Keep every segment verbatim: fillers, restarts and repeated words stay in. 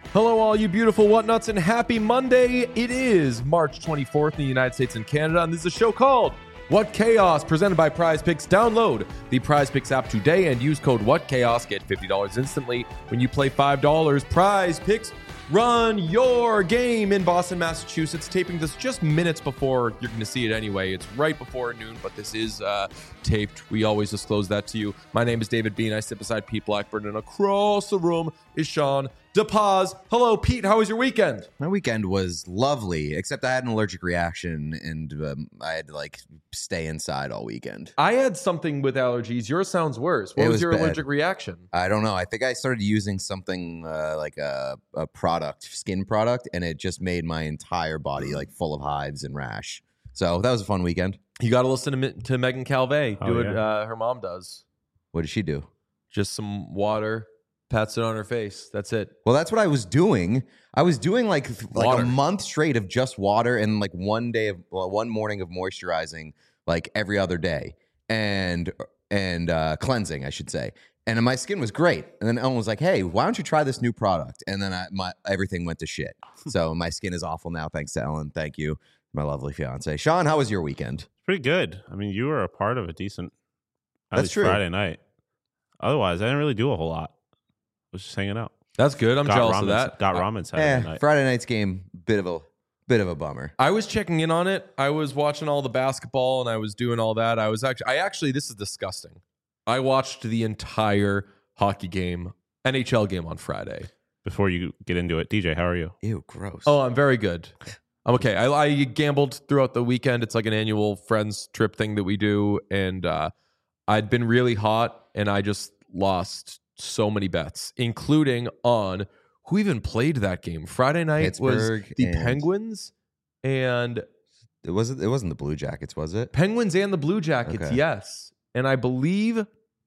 Hello, all you beautiful whatnuts, and happy Monday. It is March twenty-fourth in the United States and Canada, and this is a show called What Chaos, presented by Prize Picks. Download the Prize Picks app today and use code WhatChaos. Get fifty dollars instantly when you play five dollars. Prize Picks, run your game in Boston, Massachusetts. Taping this just minutes before you're going to see it anyway. It's right before noon, but this is uh, taped. We always disclose that to you. My name is David Bean. I sit beside Pete Blackburn, and across the room is Sean DePaz. Hello, Pete. How was your weekend? My weekend was lovely, except I had an allergic reaction, and um, I had to like stay inside all weekend. I had something with allergies. Yours sounds worse. What It was, was your bad. allergic reaction? I don't know. I think I started using something uh, like a, a product, skin product, and it just made my entire body like full of hives and rash. So that was a fun weekend. You got to listen to, Mi- to Megan Calvé. Oh, Do what yeah. uh, her mom does. What did she do? Just some water, pats it on her face. That's it. Well, that's what I was doing. I was doing like like Water. a month straight of just water and like one day of well, one morning of moisturizing like every other day and and uh, cleansing, I should say. And my skin was great. And then Ellen was like, "Hey, why don't you try this new product?" And then I, my everything went to shit. So my skin is awful now, thanks to Ellen. Thank you, my lovely fiance. Sean, how was your weekend? Pretty good. I mean, you were a part of a decent at That's least true. Friday night. Otherwise, I didn't really do a whole lot. I was just hanging out. That's good. I'm got jealous ramen, of that. Got I- ramen Saturday Eh, night. Friday night's game, bit of a bit of a bummer. I was checking in on it. I was watching all the basketball and I was doing all that. I was actually, I actually, this is disgusting. I watched the entire hockey game, N H L game on Friday. Before you get into it, D J, how are you? Ew, gross. Oh, I'm very good. I'm okay. I, I gambled throughout the weekend. It's like an annual friends trip thing that we do. And uh, I'd been really hot and I just lost so many bets, including on who even played that game. Friday night Pittsburgh was the and- Penguins and it wasn't. It wasn't the Blue Jackets, was it? Penguins and the Blue Jackets. Okay. Yes. And I believe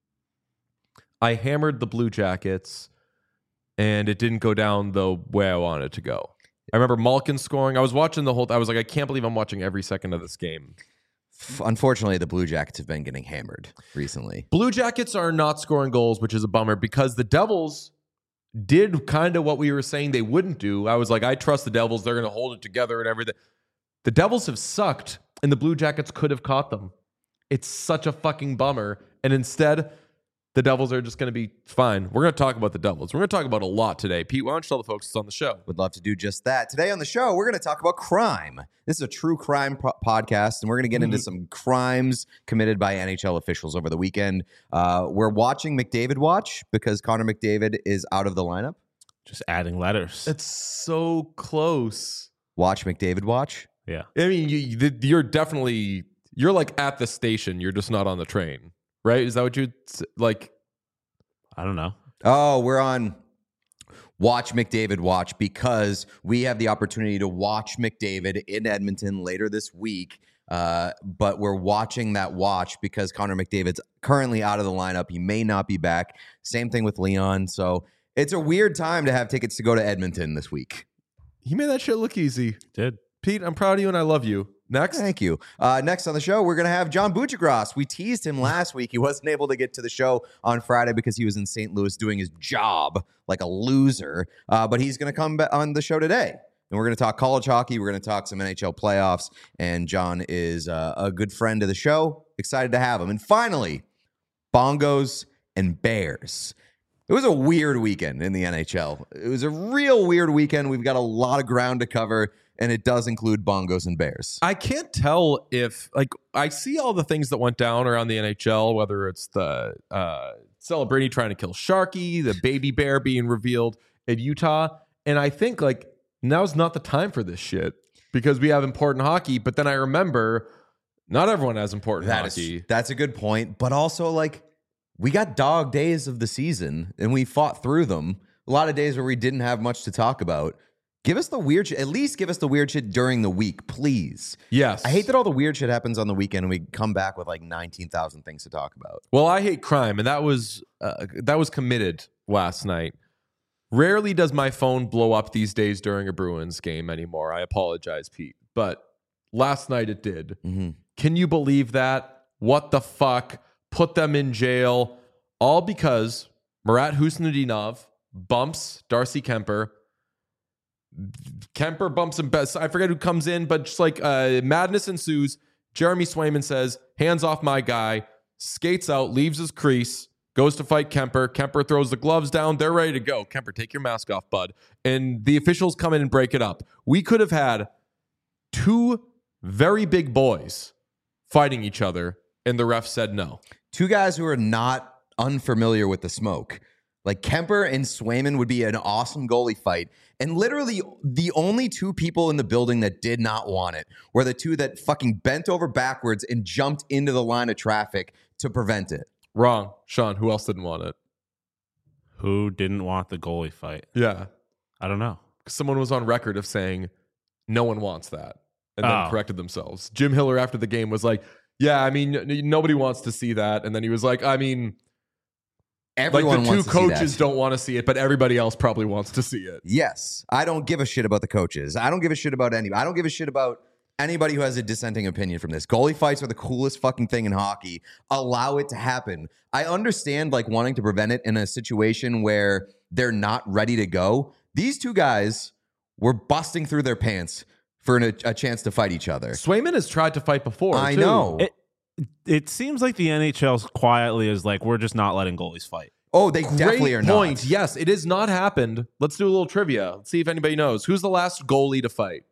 I hammered the Blue Jackets and it didn't go down the way I wanted it to go. I remember Malkin scoring. I was watching the whole I was like, I can't believe I'm watching every second of this game. F- Unfortunately, the Blue Jackets have been getting hammered recently. Blue Jackets are not scoring goals, which is a bummer because the Devils did kind of what we were saying they wouldn't do. I was like, I trust the Devils. They're going to hold it together and everything. The Devils have sucked, and the Blue Jackets could have caught them. It's such a fucking bummer. And instead, the Devils are just going to be fine. We're going to talk about the Devils. We're going to talk about a lot today. Pete, why don't you tell the folks it's on the show? Would love to do just that. Today on the show, we're going to talk about crime. This is a true crime po- podcast, and we're going to get into some crimes committed by N H L officials over the weekend. Uh, we're watching McDavid watch because Connor McDavid is out of the lineup. Just adding letters. It's so close. Watch McDavid watch. yeah. I mean, you, you- you're definitely, you're like at the station. You're just not on the train, right? Is that what you'd s- like? I don't know. Oh, we're on Watch McDavid watch because we have the opportunity to watch McDavid in Edmonton later this week. Uh, but we're watching that watch because Connor McDavid's currently out of the lineup. He may not be back. Same thing with Leon. So it's a weird time to have tickets to go to Edmonton this week. He made that shit look easy. Did. Pete, I'm proud of you and I love you. Next. Thank you. Uh, next on the show, we're going to have John Buccigross. We teased him last week. He wasn't able to get to the show on Friday because he was in Saint Louis doing his job like a loser. Uh, but he's going to come back on the show today. And we're going to talk college hockey. We're going to talk some N H L playoffs. And John is uh, a good friend of the show. Excited to have him. And finally, Bongos and Bears. It was a weird weekend in the N H L. It was a real weird weekend. We've got a lot of ground to cover. And it does include Bongos and Bears. I can't tell if, like, I see all the things that went down around the N H L, whether it's the uh, Celebrini trying to kill Sharky, the baby bear being revealed in Utah. And I think, like, now's not the time for this shit because we have important hockey. But then I remember not everyone has important That hockey. is, that's a good point. But also, like, we got dog days of the season and we fought through them. A lot of days where we didn't have much to talk about. Give us the weird shit. At least give us the weird shit during the week, please. Yes. I hate that all the weird shit happens on the weekend and we come back with like nineteen thousand things to talk about. Well, I hate crime, and that was uh, that was committed last night. Rarely does my phone blow up these days during a Bruins game anymore. I apologize, Pete, but last night it did. Mm-hmm. Can you believe that? What the fuck? Put them in jail, all because Murat Husnudinov bumps Darcy Kemper, Kemper bumps him best. I forget who comes in, but just like uh, madness ensues. Jeremy Swayman says, hands off my guy, skates out, leaves his crease, goes to fight Kemper. Kemper throws the gloves down. They're ready to go. Kemper, take your mask off, bud. And the officials come in and break it up. We could have had two very big boys fighting each other, and the ref said no. Two guys who are not unfamiliar with the smoke. Like Kemper and Swayman would be an awesome goalie fight. And literally the only two people in the building that did not want it were the two that fucking bent over backwards and jumped into the line of traffic to prevent it. Wrong. Sean, who else didn't want it? Who didn't want the goalie fight? Yeah. I don't know. Someone was on record of saying no one wants that and then Oh. corrected themselves. Jim Hiller after the game was like, yeah, I mean, n- nobody wants to see that. And then he was like, I mean, Everyone like the two wants to see coaches that. don't want to see it, but everybody else probably wants to see it. Yes. I don't give a shit about the coaches. I don't give a shit about anybody. I don't give a shit about anybody who has a dissenting opinion from this. Goalie fights are the coolest fucking thing in hockey. Allow it to happen. I understand like wanting to prevent it in a situation where they're not ready to go. These two guys were busting through their pants for an, a, a chance to fight each other. Swayman has tried to fight before. I too. know. It, it seems like the N H L quietly is like, we're just not letting goalies fight. Oh, they Great definitely are point. not. Yes, it has not happened. Let's do a little trivia. Let's see if anybody knows. Who's the last goalie to fight?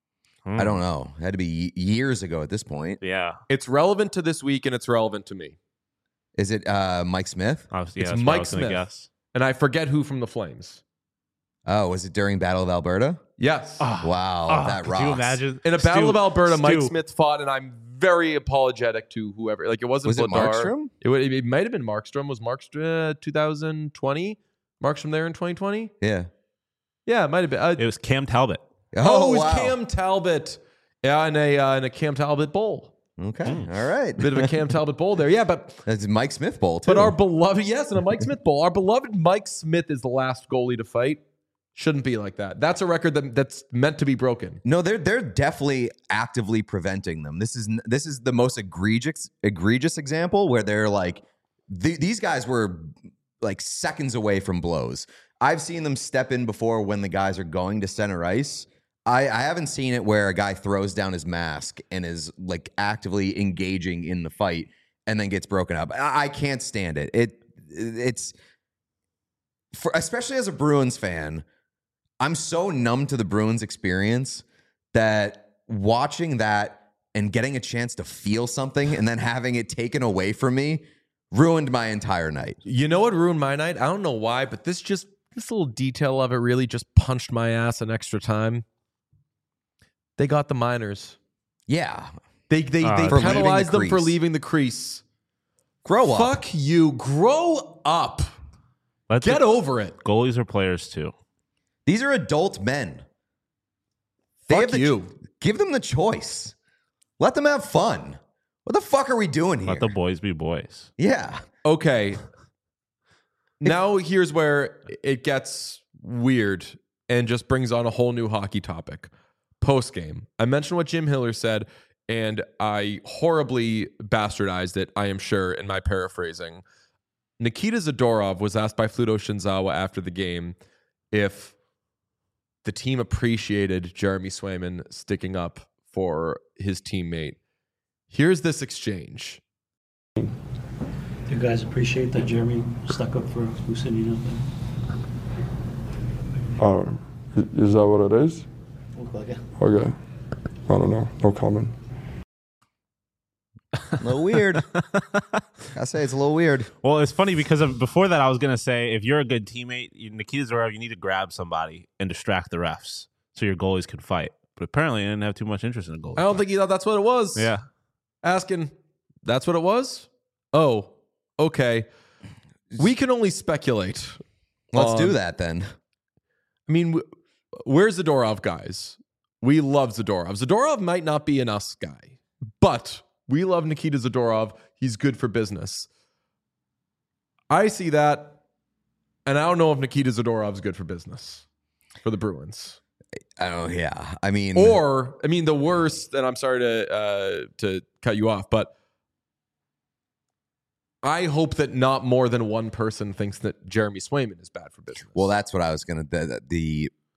I don't know. It had to be years ago at this point. Yeah. It's relevant to this week and it's relevant to me. Is it uh, Mike Smith? I was, yeah, It's that's what I Mike was gonna Smith. Guess. And I forget who from the Flames. Oh, was it during Battle of Alberta? Yes. Oh, Wow, oh, that could rocks. you imagine? In a Battle Stu- of Alberta, Mike Stu, Smith fought, and I'm very apologetic to whoever. Like, it wasn't Was it Vladar. Markstrom? It, would, it might have been Markstrom. Was Markstrom uh, twenty twenty? Markstrom there in twenty twenty? Yeah. Yeah, it might have been. Uh, It was Cam Talbot. oh, it was wow. Cam Talbot. Yeah, in a, uh, in a Cam Talbot bowl. Okay. Mm. All right. Bit of a Cam Talbot bowl there. Yeah, but That's Mike Smith Bowl, too. but our beloved, yes, in a Mike Smith bowl. Our beloved Mike Smith is the last goalie to fight. Shouldn't be like that. That's a record that, that's meant to be broken. No, they're they're definitely actively preventing them. This is this is the most egregious egregious example where they're like th- these guys were like seconds away from blows. I've seen them step in before when the guys are going to center ice. I, I haven't seen it where a guy throws down his mask and is like actively engaging in the fight and then gets broken up. I, I can't stand it. It it's for especially as a Bruins fan. I'm so numb to the Bruins experience that watching that and getting a chance to feel something and then having it taken away from me ruined my entire night. You know what ruined my night? I don't know why, but this just this little detail of it really just punched my ass an extra time. They got the minors. Yeah. They they Uh, they For leaving the penalized them for crease. leaving the crease. Grow up. Fuck you. Grow up. Let's Get over it. Goalies are players too. These are adult men. They Fuck have the, you. Give them the choice. Let them have fun. What the fuck are we doing here? Let the boys be boys. yeah. Okay. Now here's where it gets weird and just brings on a whole new hockey topic. Post game, I mentioned what Jim Hiller said, and I horribly bastardized it, I am sure, in my paraphrasing. Nikita Zadorov was asked by Fluto Shinzawa after the game if the team appreciated Jeremy Swayman sticking up for his teammate. Here's this exchange. Do you guys appreciate that Jeremy stuck up for Lucinino? Um, i- is that what it is? Look like it. Okay. I don't know. No comment. A little weird. I say it's a little weird. Well, it's funny because of, before that, I was gonna say if you're a good teammate, you, Nikita Zadorov, you need to grab somebody and distract the refs so your goalies can fight. But apparently, I didn't have too much interest in a goalie. I don't think he thought that's what it was. Yeah. Asking, that's what it was? Oh, okay. We can only speculate. Let's on- do that then. I mean, w- where's Zadorov, guys? We love Zadorov. Zadorov might not be an us guy, but we love Nikita Zadorov. He's good for business. I see that, and I don't know if Nikita Zadorov's good for business for the Bruins. Oh yeah. I mean, Or, I mean, the worst, and I'm sorry to uh, to cut you off, but I hope that not more than one person thinks that Jeremy Swayman is bad for business. well, that's what I was gonna. The, the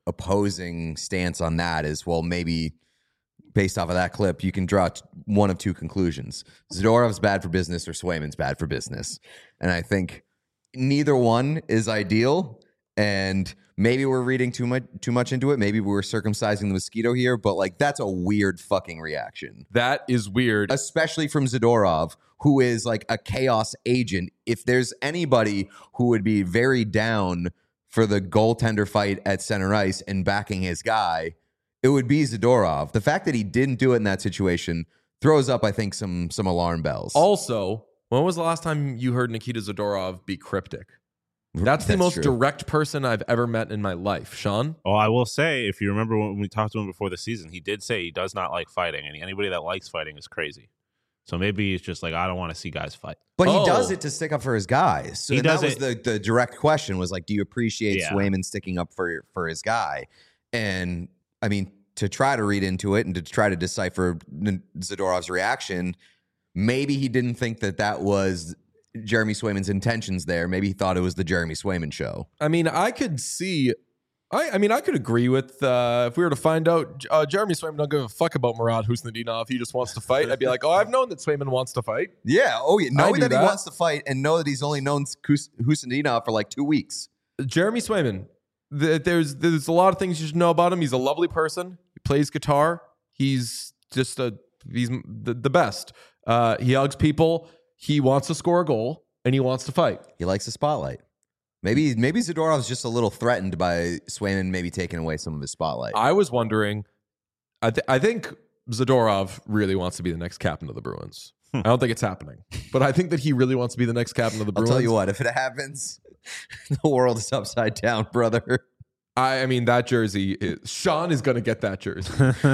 opposing stance on that is, well, maybe based off of that clip, you can draw t- one of two conclusions. Zadorov's bad for business or Swayman's bad for business. And I think neither one is ideal. And maybe we're reading too much too much into it. Maybe we're circumcising the mosquito here, but like that's a weird fucking reaction. That is weird. Especially from Zadorov, who is like a chaos agent. If there's anybody who would be very down for the goaltender fight at center ice and backing his guy, it would be Zadorov. The fact that he didn't do it in that situation throws up, I think, some some alarm bells. Also, when was the last time you heard Nikita Zadorov be cryptic? That's the That's most true. direct person I've ever met in my life. Sean? Oh, I will say, if you remember when we talked to him before the season, he did say he does not like fighting, and anybody that likes fighting is crazy. So maybe it's just like, I don't want to see guys fight. But Oh. he does it to stick up for his guys. So He and that does was it- the, the direct question was like, do you appreciate Yeah. Swayman sticking up for for his guy? And I mean, to try to read into it and to try to decipher N- Zadorov's reaction, maybe he didn't think that that was Jeremy Swayman's intentions there. Maybe he thought it was the Jeremy Swayman show. I mean, I could see. I, I mean, I could agree with uh, if we were to find out uh, Jeremy Swayman don't give a fuck about Murat Husnudinov. He just wants to fight. I'd be like, oh, I've known that Swayman wants to fight. Yeah. Oh, yeah. I Knowing do that, that. he wants to fight and know that he's only known Hus- Husnudinov for like two weeks. Jeremy Swayman. th- There's there's a lot of things you should know about him. He's a lovely person. He plays guitar. He's just a he's the, the best. Uh, he hugs people. He wants to score a goal and he wants to fight. He likes the spotlight. Maybe maybe Zadorov's just a little threatened by Swayman maybe taking away some of his spotlight. I was wondering. I th- I think Zadorov really wants to be the next captain of the Bruins. I don't think it's happening, but I think that he really wants to be the next captain of the I'll Bruins. tell you what, if it happens, the world is upside down, brother. I, I mean, that jersey is Sean is going to get that jersey.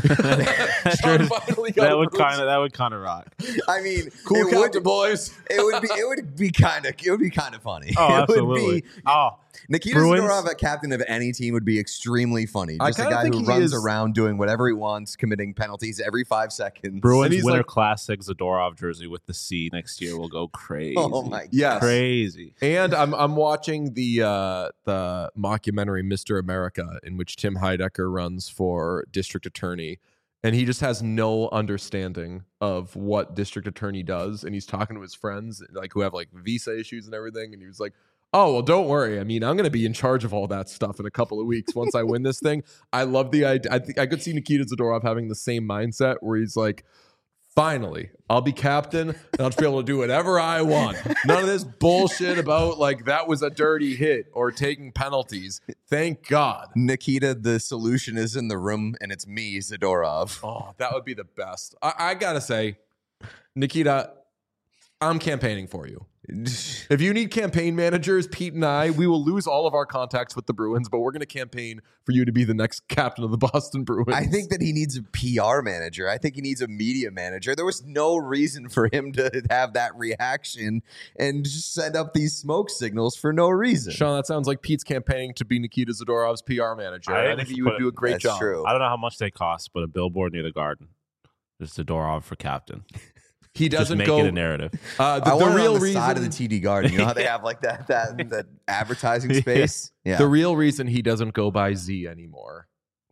That Sean jersey- finally got that a would Bruins. kind of that would kind of rock. I mean, Cool it captain, would, boys. it would be it would be kind of it would be kind of funny. Oh, it absolutely. would be Oh, Nikita Bruins- Zadorov, a captain of any team, would be extremely funny. I Just a kinda guy think who he runs is- around doing whatever he wants, committing penalties every five seconds. And Bruins he's Winter like- Classic Zadorov jersey with the C next year will go crazy. Oh my god! Yes. Crazy. And I'm I'm watching the uh, the mockumentary Mister America, in which Tim Heidecker runs for district attorney, and he just has no understanding of what district attorney does, and he's talking to his friends like who have like visa issues and everything, and he was like, "Oh well, don't worry. I mean, I'm going to be in charge of all that stuff in a couple of weeks once I win this thing." I love the idea. I think I could see Nikita Zadorov having the same mindset where he's like, finally, I'll be captain and I'll just be able to do whatever I want. None of this bullshit about like that was a dirty hit or taking penalties. Thank God. Nikita, the solution is in the room, and it's me, Zadorov. Oh, that would be the best. I, I gotta say, Nikita, I'm campaigning for you. If you need campaign managers, Pete and I, we will lose all of our contacts with the Bruins, but we're going to campaign for you to be the next captain of the Boston Bruins. I think that he needs a P R manager. I think he needs a media manager. There was no reason for him to have that reaction and just send up these smoke signals for no reason. Sean, that sounds like Pete's campaigning to be Nikita Zadorov's P R manager. I I, think think we you should would put do a it- great That's job. true. I don't know how much they cost, but a billboard near the Garden. There's Zadorov for captain. He Just doesn't make go. it a narrative. Uh, the I the want it real on the reason, side of the T D Garden. You know how they have like that that that advertising space? Yeah. the real reason he doesn't go by Z anymore.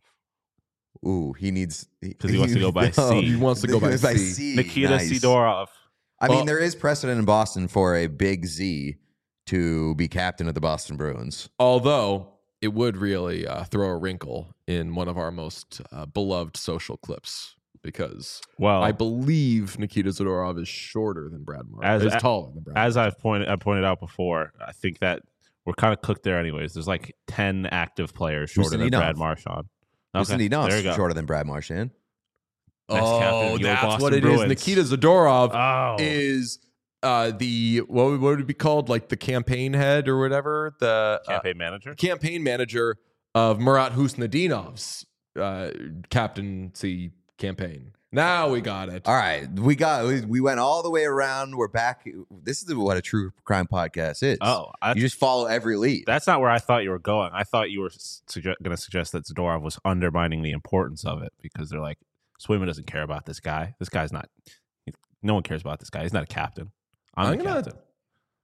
Ooh, he needs 'Cause he wants to go by C. He wants to go by C. Nikita Nice. Sidorov. I mean, Well- there is precedent in Boston for a big Z to be captain of the Boston Bruins. Although it would really uh, throw a wrinkle in one of our most uh, beloved social clips, because Well, I believe Nikita Zadorov is shorter than Brad Marchand. As- Is taller than Brad. as I've pointed I pointed out before, I think that we're kind of cooked there anyways. There's like ten active players shorter than Ustinov. Brad Marchand. Listen, he there you knows go. shorter than Brad Marchand. Next captain oh, of your that's Boston what it is. Bruins. Nikita Zadorov Oh, is uh, the what would, what would it be called? Like the campaign head or whatever. The uh, campaign manager. campaign manager of Murat Husnudinov's uh, captaincy campaign. Now we got it. All right, we got we, we went all the way around. We're back. This is what a true crime podcast is. Oh, I, you just follow every lead. that's not where I thought you were going. I thought you were suge- going to suggest that Zadorov was undermining the importance of it because they're like, Swayman doesn't care about this guy. This guy's not. No one cares about this guy. He's not a captain. I'm, I'm the gonna. captain.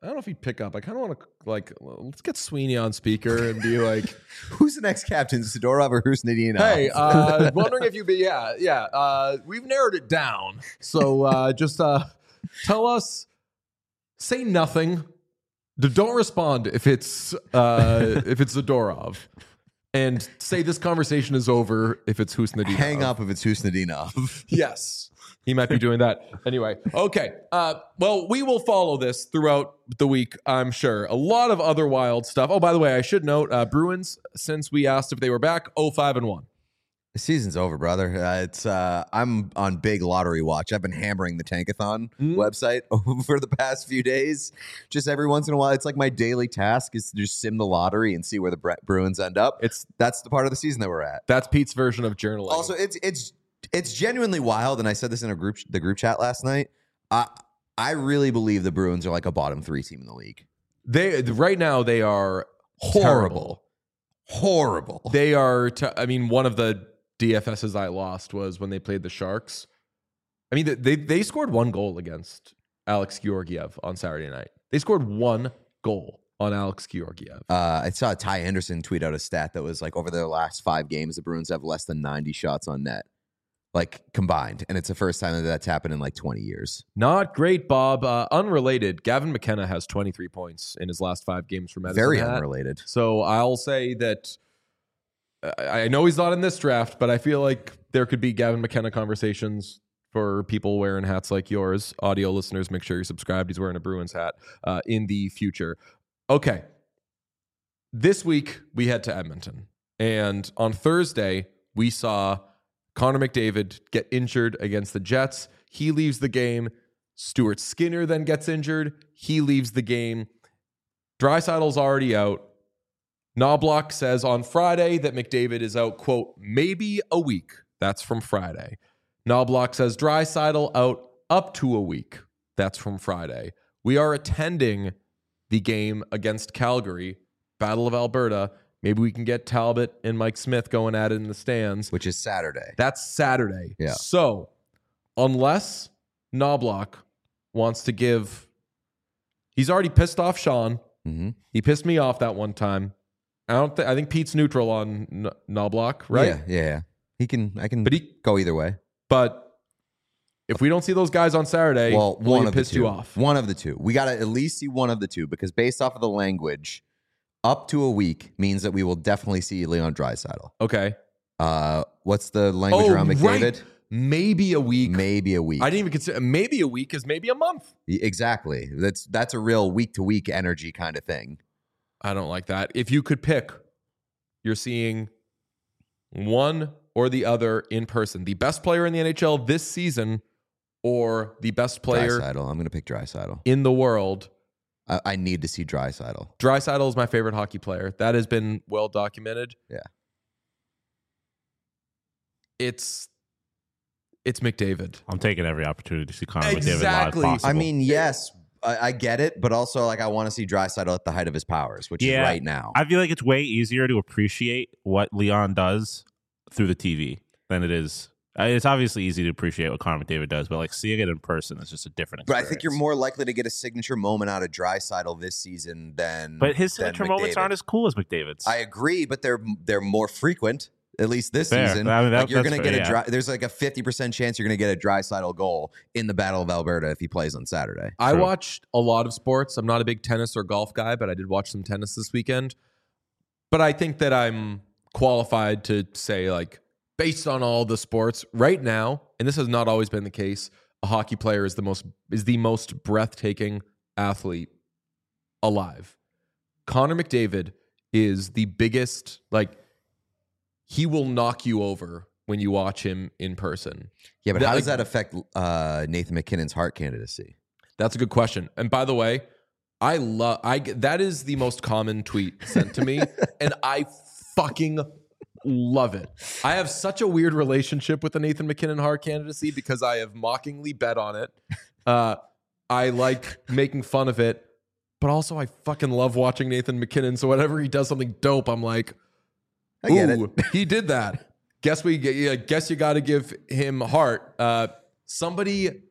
I don't know if he'd pick up. I kind of want to like let's get Sweeney on speaker and be like, who's the next captain, Sidorov or Husnudinov? hey, uh, wondering if you be yeah yeah. Uh, we've narrowed it down, so uh, just uh, tell us. Say nothing. D- Don't respond if it's uh, if it's Zadorov, and say this conversation is over if it's Husnudinov. Hang up if it's Husnudinov. Yes, he might be doing that anyway. Okay. Uh, well, we will follow this throughout the week, I'm sure. A lot of other wild stuff. Oh, by the way, I should note uh, Bruins. Since we asked if they were back, oh five and one. The season's over, brother. Uh, it's uh, I'm on big lottery watch. I've been hammering the Tankathon Mm. website over the past few days. Just every once in a while, it's like my daily task is to just sim the lottery and see where the Bre- Bruins end up. It's That's the part of the season that we're at. that's Pete's version of journaling. Also, it's it's it's genuinely wild, and I said this in a group the group chat last night. I I really believe the Bruins are like a bottom three team in the league. they right now they are horrible. Horrible. They are. T- I mean, one of the D F Ss I lost was when they played the Sharks. I mean, they they scored one goal against Alex Georgiev on Saturday night. They scored one goal on Alex Georgiev. Uh, I saw Ty Anderson tweet out a stat that was like over their last five games, the Bruins have less than ninety shots on net, like combined, and it's the first time that that's happened in like twenty years. Not great, Bob. Uh, unrelated, Gavin McKenna has twenty-three points in his last five games for Medicine Very Hat. unrelated. So I'll say that I I know he's not in this draft, but I feel like there could be Gavin McKenna conversations for people wearing hats like yours. Audio listeners, make sure you're subscribed. He's wearing a Bruins hat uh, in the future. Okay. This week, we head to Edmonton. And on Thursday, we saw Connor McDavid get injured against the Jets. He leaves the game. Stuart Skinner then gets injured. He leaves the game. Draisaitl's already out. Knobloch says on Friday that McDavid is out, quote, maybe a week. That's from Friday. Knobloch says Draisaitl out up to a week. That's from Friday. We are attending the game against Calgary, Battle of Alberta. Maybe we can get Talbot and Mike Smith going at it in the stands. Which is Saturday. That's Saturday. Yeah. So unless Knobloch wants to give, he's already pissed off Sean. Mm-hmm. He pissed me off that one time. I don't. Th- I think Pete's neutral on N- Knobloch, right? Yeah, yeah, yeah. He can. I can. But he- go either way. But if we don't see those guys on Saturday, Well, William one of the pissed two. you off. One of the two. We got to at least see one of the two because based off of the language, up to a week means that we will definitely see Leon Draisaitl. Okay. Uh, what's the language Oh, around McDavid? right. Maybe a week. Maybe a week. I didn't even consider. Maybe a week is maybe a month. Exactly. That's that's a real week to week energy kind of thing. I don't like that. If you could pick, you're seeing one or the other in person. The best player in the N H L this season or the best player Draisaitl. I'm going to pick Draisaitl. in the world. I, I need to see Draisaitl. Draisaitl is my favorite hockey player. That has been well documented. Yeah. It's it's McDavid. I'm taking every opportunity to see Connor Exactly. McDavid live possible. I mean, yes, I, I get it, but also like I want to see Draisaitl at the height of his powers, which Yeah. is right now. I feel like it's way easier to appreciate what Leon does through the T V than it is. uh, It's obviously easy to appreciate what Connor McDavid does, but like seeing it in person is just a different But experience. I think you're more likely to get a signature moment out of Draisaitl this season than. But his than signature moments McDavid. aren't as cool as McDavid's. I agree, but they're they're more frequent. At least this Fair. season, I mean, that- like you're that's going to fair, get a yeah. dry, there's like a fifty percent chance you're going to get a Draisaitl goal in the Battle of Alberta if he plays on Saturday. I True. watched a lot of sports. I'm not a big tennis or golf guy, but I did watch some tennis this weekend. But I think that I'm qualified to say, like, based on all the sports right now, and this has not always been the case, a hockey player is the most is the most breathtaking athlete alive. Connor McDavid is the biggest, like, he will knock you over when you watch him in person. Yeah, but That- how does like- that affect uh, Nathan McKinnon's Hart candidacy? That's a good question. And by the way, I love I get- that is the most common tweet sent to me, and I fucking love it. I have such a weird relationship with the Nathan McKinnon Hart candidacy because I have mockingly bet on it. Uh, I like making fun of it, but also I fucking love watching Nathan McKinnon. So whenever he does something dope, I'm like, I get ooh, he did that. Guess we yeah, guess you got to give him Hart. Uh, somebody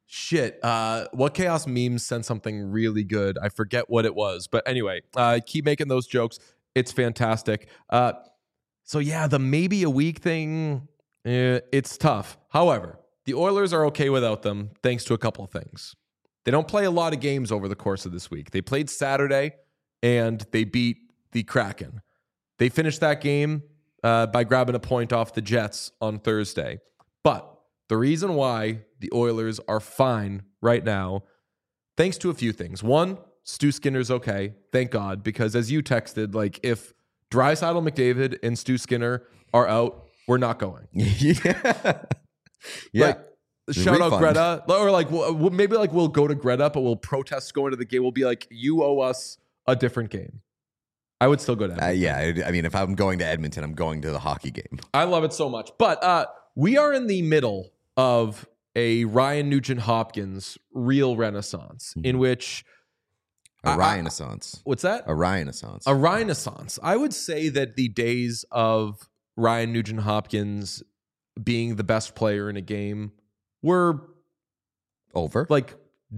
Shit. Uh, what Chaos Memes sent something really good. I forget what it was. But anyway, uh, keep making those jokes. It's fantastic. Uh, so, yeah, the maybe a week thing, eh, it's tough. However, the Oilers are okay without them thanks to a couple of things. They don't play a lot of games over the course of this week. They played Saturday, and they beat the Kraken. They finished that game uh, by grabbing a point off the Jets on Thursday. But the reason why the Oilers are fine right now, thanks to a few things. One, Stu Skinner's okay. Thank God. Because as you texted, like if Draisaitl, McDavid, and Stu Skinner are out, we're not going. yeah. Yeah. Like, shout out Refund. Greta. Or like we'll, maybe like we'll go to Greta, but we'll protest going to the game. We'll be like, you owe us a different game. I would still go to Edmonton. Uh, yeah. I mean, if I'm going to Edmonton, I'm going to the hockey game. I love it so much. But uh, we are in the middle of a Ryan Nugent-Hopkins real renaissance Mhm. in which A I- Renaissance. what's that? A Renaissance. A renaissance. I would say that the days of Ryan Nugent-Hopkins being the best player in a game were Over. like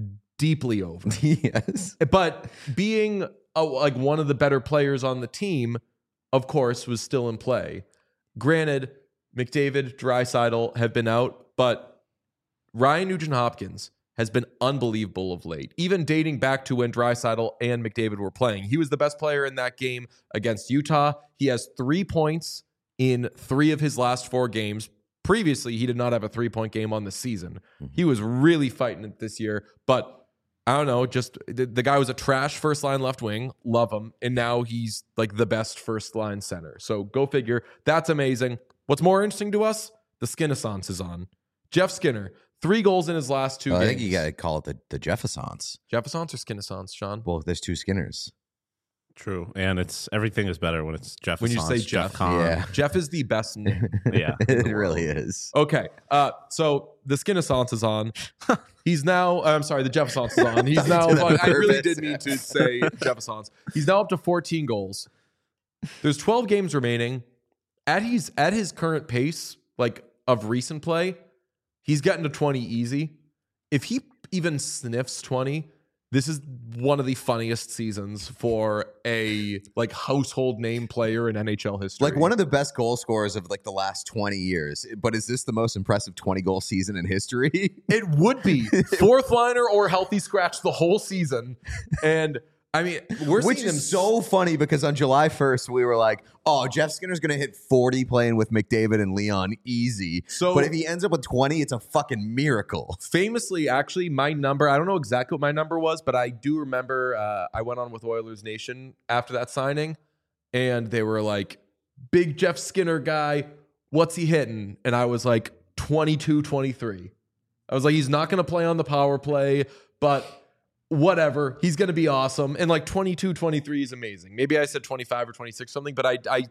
deeply over. yes. But being a, like one of the better players on the team, of course, was still in play. Granted, McDavid, Draisaitl have been out, but Ryan Nugent-Hopkins has been unbelievable of late, even dating back to when Draisaitl and McDavid were playing. He was the best player in that game against Utah. He has three points in three of his last four games. Previously, he did not have a three-point game on the season. He was really fighting it this year, but I don't know, just the, the guy was a trash first-line left wing, love him, and now he's like the best first-line center. So go figure. That's amazing. What's more interesting to us? The Skinnaissance is on. Jeff Skinner, three goals in his last two Oh, I games. think you got to call it the, the Jeffersons. Jefferson's or Skinnaissance, Sean? Well, there's two Skinners. True, and it's everything is better when it's Jeff. When you say Jeff. Kahn. Yeah. Jeff is the best name. yeah. it really is. Okay, uh, so the Skinnaissance is on. He's now, I'm sorry, the Jefferson's is on. He's now, Did that I really purpose. did mean to say Jefferson's. He's now up to fourteen goals. There's twelve games remaining. At his, at his current pace, like of recent play, he's getting to twenty easy. If he even sniffs twenty, this is one of the funniest seasons for a like household name player in N H L history. Like one of the best goal scorers of like the last twenty years. But is this the most impressive twenty goal season in history? It would be fourth liner or healthy scratch the whole season. And I mean, we're Which seeing him is so funny because on July first, we were like, oh, Jeff Skinner's going to hit forty playing with McDavid and Leon easy. So- but if he ends up with twenty, it's a fucking miracle. famously, actually, my number, I don't know exactly what my number was, but I do remember uh, I went on with Oilers Nation after that signing, and they were like, big Jeff Skinner guy, what's he hitting? And I was like, twenty-two, twenty-three. I was like, he's not going to play on the power play, but whatever, he's going to be awesome. And like twenty-two, twenty-three is amazing. Maybe I said twenty-five or twenty-six something, but I, I,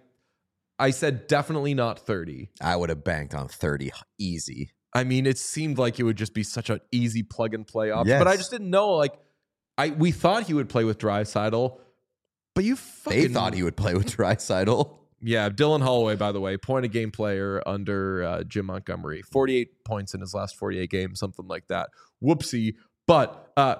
I said definitely not thirty. I would have banked on thirty easy. I mean, it seemed like it would just be such an easy plug and play option, Yes. but I just didn't know. Like, I we thought he would play with Draisaitl, but you fucking They thought he would play with Draisaitl. yeah. Dylan Holloway, by the way, point a game player under uh, Jim Montgomery, forty-eight points in his last forty-eight games, something like that. Whoopsie, but uh,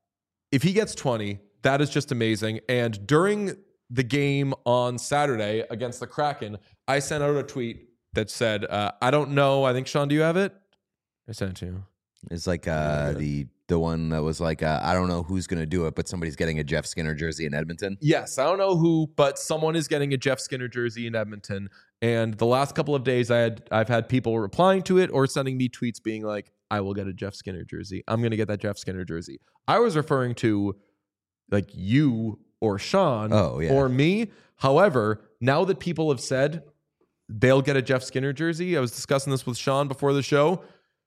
if he gets twenty, that is just amazing. And during the game on Saturday against the Kraken, I sent out a tweet that said, uh, I don't know. I think, Sean, do you have it? I sent it to you. It's like uh, the the one that was like, uh, I don't know who's going to do it, but somebody's getting a Jeff Skinner jersey in Edmonton. Yes, I don't know who, but someone is getting a Jeff Skinner jersey in Edmonton. And the last couple of days, I had I've had people replying to it or sending me tweets being like, I will get a Jeff Skinner jersey. I'm going to get that Jeff Skinner jersey. I was referring to like you or Sean Oh, yeah. or me. However, now that people have said they'll get a Jeff Skinner jersey, I was discussing this with Sean before the show.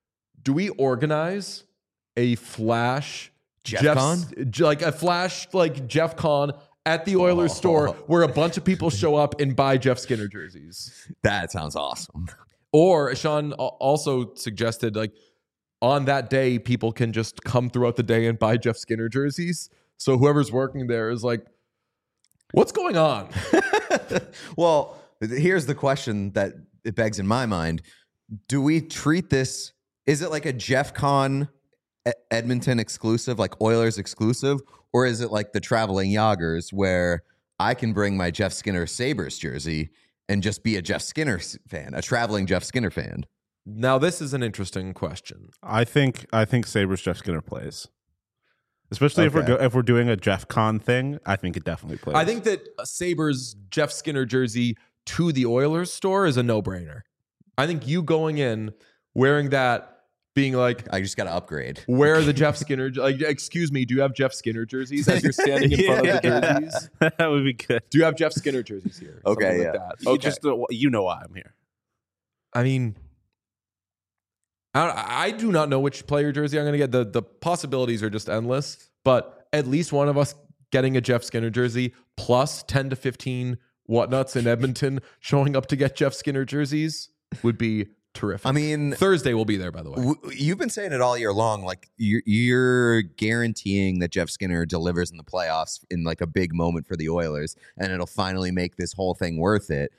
Do we organize a flash Jeff Jeff's- Con? j- like a flash like Jeff Con at the Oilers Oh. store where a bunch of people show up and buy Jeff Skinner jerseys? That sounds awesome. Or Sean al- also suggested like on that day, people can just come throughout the day and buy Jeff Skinner jerseys. So whoever's working there is like, what's going on? Well, th- here's the question that it begs in my mind. Do we treat this, is it like a Jeff Con E- Edmonton exclusive, like Oilers exclusive, or is it like the traveling Yoggers where I can bring my Jeff Skinner Sabres jersey and just be a Jeff Skinner s- fan, a traveling Jeff Skinner fan? Now, this is an interesting question. I think I think Sabres Jeff Skinner plays, especially if we're Okay. go, if we're doing a Jeff Con thing. I think it definitely plays. I think that a Sabres Jeff Skinner jersey to the Oilers store is a no-brainer. I think you going in wearing that, being like, I just got to upgrade. where are the Jeff Skinner? Like, excuse me, do you have Jeff Skinner jerseys as you're standing in front of the Yeah. jerseys? that would be good. Do you have Jeff Skinner jerseys here? Okay, Something yeah. like that. You Okay. just uh, you know why I'm here. I mean, I, I do not know which player jersey I'm going to get. The the possibilities are just endless. But at least one of us getting a Jeff Skinner jersey plus ten to fifteen whatnots in Edmonton showing up to get Jeff Skinner jerseys would be terrific. I mean, Thursday will be there, by the way. w- you've been saying it all year long. Like you're, you're guaranteeing that Jeff Skinner delivers in the playoffs in like a big moment for the Oilers, and it'll finally make this whole thing worth it.